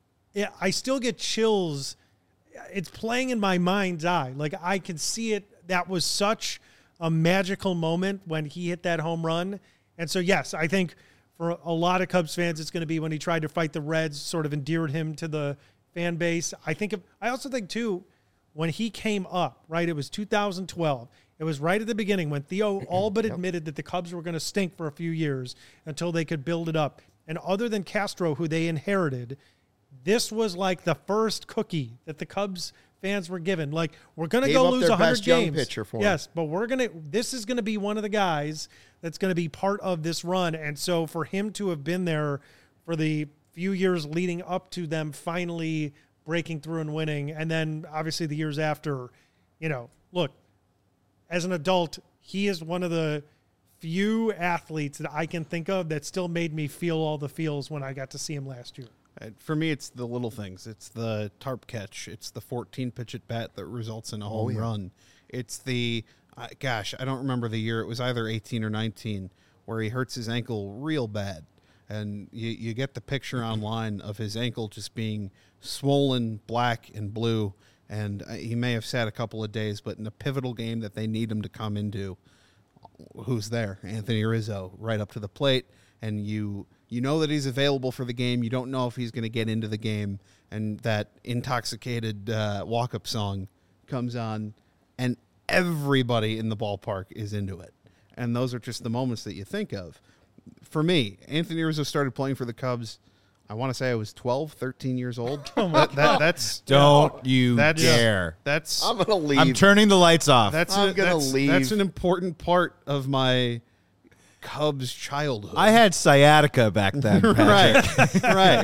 I still get chills. It's playing in my mind's eye. Like, I can see it. That was such a magical moment when he hit that home run. And so, yes, I think for a lot of Cubs fans, it's going to be when he tried to fight the Reds, sort of endeared him to the fan base. I also think, too, when he came up, right, it was 2012. It was right at the beginning when Theo all but admitted that the Cubs were going to stink for a few years until they could build it up. And other than Castro, who they inherited, this was like the first cookie that the Cubs fans were given. Like, we're going to go lose 100 games. Pitcher for yes, but this is going to be one of the guys that's going to be part of this run. And so for him to have been there for the few years leading up to them finally breaking through and winning, and then obviously the years after, look, as an adult, he is one of the few athletes that I can think of that still made me feel all the feels when I got to see him last year. For me, it's the little things. It's the tarp catch. It's the 14-pitch at bat that results in a home run. It's the, I don't remember the year. It was either 18 or 19 where he hurts his ankle real bad. And you get the picture online of his ankle just being swollen, black and blue. And he may have sat a couple of days, but in a pivotal game that they need him to come into, who's there? Anthony Rizzo, right up to the plate. And you know that he's available for the game. You don't know if he's going to get into the game. And that intoxicated walk-up song comes on, and everybody in the ballpark is into it. And those are just the moments that you think of. For me, Anthony Rizzo started playing for the Cubs, I want to say I was 12, 13 years old. That's Don't you dare. That's I'm going to leave. I'm turning the lights off. I'm going to leave. That's an important part of my Cubs childhood. I had sciatica back then, Patrick.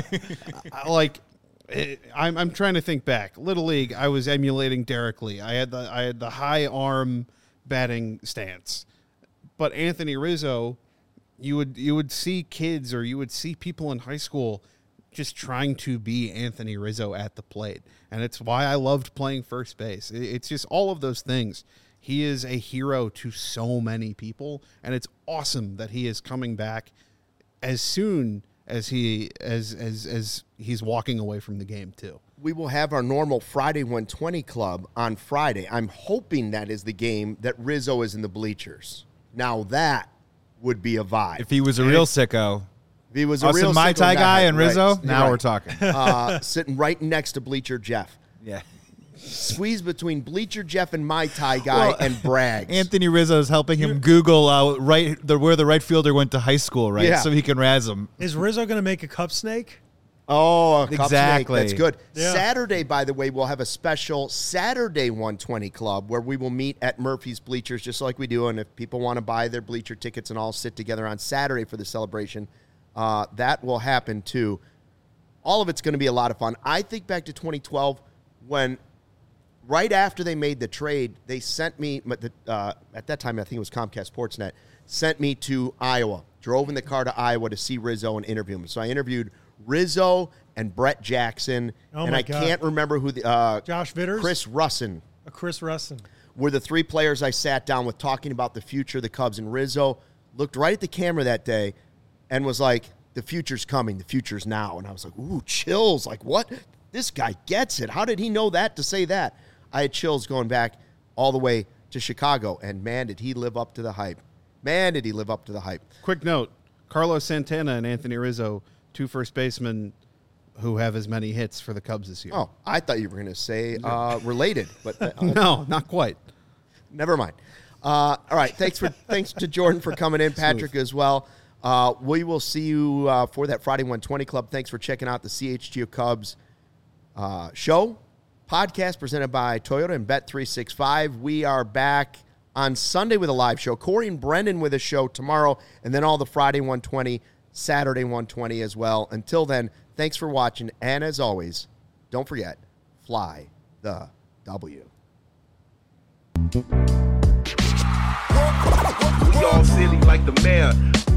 right. I'm trying to think back. Little League, I was emulating Derek Lee. I had the high arm batting stance. But Anthony Rizzo, you would see kids or you would see people in high school just trying to be Anthony Rizzo at the plate. And it's why I loved playing first base. It's just all of those things. He is a hero to so many people, and it's awesome that he is coming back as soon as he's walking away from the game too. We will have our normal Friday 120 club on Friday. I'm hoping that is the game that Rizzo is in the bleachers. Now that would be a vibe. If he was a real sicko. If he was us a real and Mai Tai guy and Rizzo, right. now we're talking. Sitting right next to Bleacher Jeff. Yeah. Squeeze between Bleacher Jeff and Mai Tai guy and Braggs. Anthony Rizzo is helping him Google where the right fielder went to high school, right? Yeah. So he can razz him. Is Rizzo going to make a cup snake? Oh, a cup snake. That's good. Yeah. Saturday, by the way, we'll have a special Saturday 120 club where we will meet at Murphy's Bleachers just like we do. And if people want to buy their bleacher tickets and all sit together on Saturday for the celebration, that will happen too. All of it's going to be a lot of fun. I think back to 2012 when right after they made the trade, they sent me, at that time I think it was Comcast Sportsnet, sent me to Iowa, drove in the car to Iowa to see Rizzo and interview him. So I interviewed Rizzo and Brett Jackson, and I can't remember who the Josh Vitters? Chris Russin. Chris Russin. Were the three players I sat down with talking about the future of the Cubs. And Rizzo looked right at the camera that day and was like, the future's coming, the future's now. And I was like, ooh, chills. Like, what? This guy gets it. How did he know that to say that? I had chills going back all the way to Chicago, and man, did he live up to the hype. Man, did he live up to the hype. Quick note, Carlos Santana and Anthony Rizzo, two first basemen who have as many hits for the Cubs this year. Oh, I thought you were going to say related, but no, not quite. Never mind. All right. Thanks to Jordan for coming in, Patrick as well. We will see you for that Friday 120 Club. Thanks for checking out the CHGO Cubs show podcast presented by Toyota and Bet365. We are back on Sunday with a live show. Corey and Brendan with a show tomorrow, and then all the Friday 120, Saturday 120 as well. Until then, thanks for watching, and as always, don't forget, fly the W. We all silly like the mayor.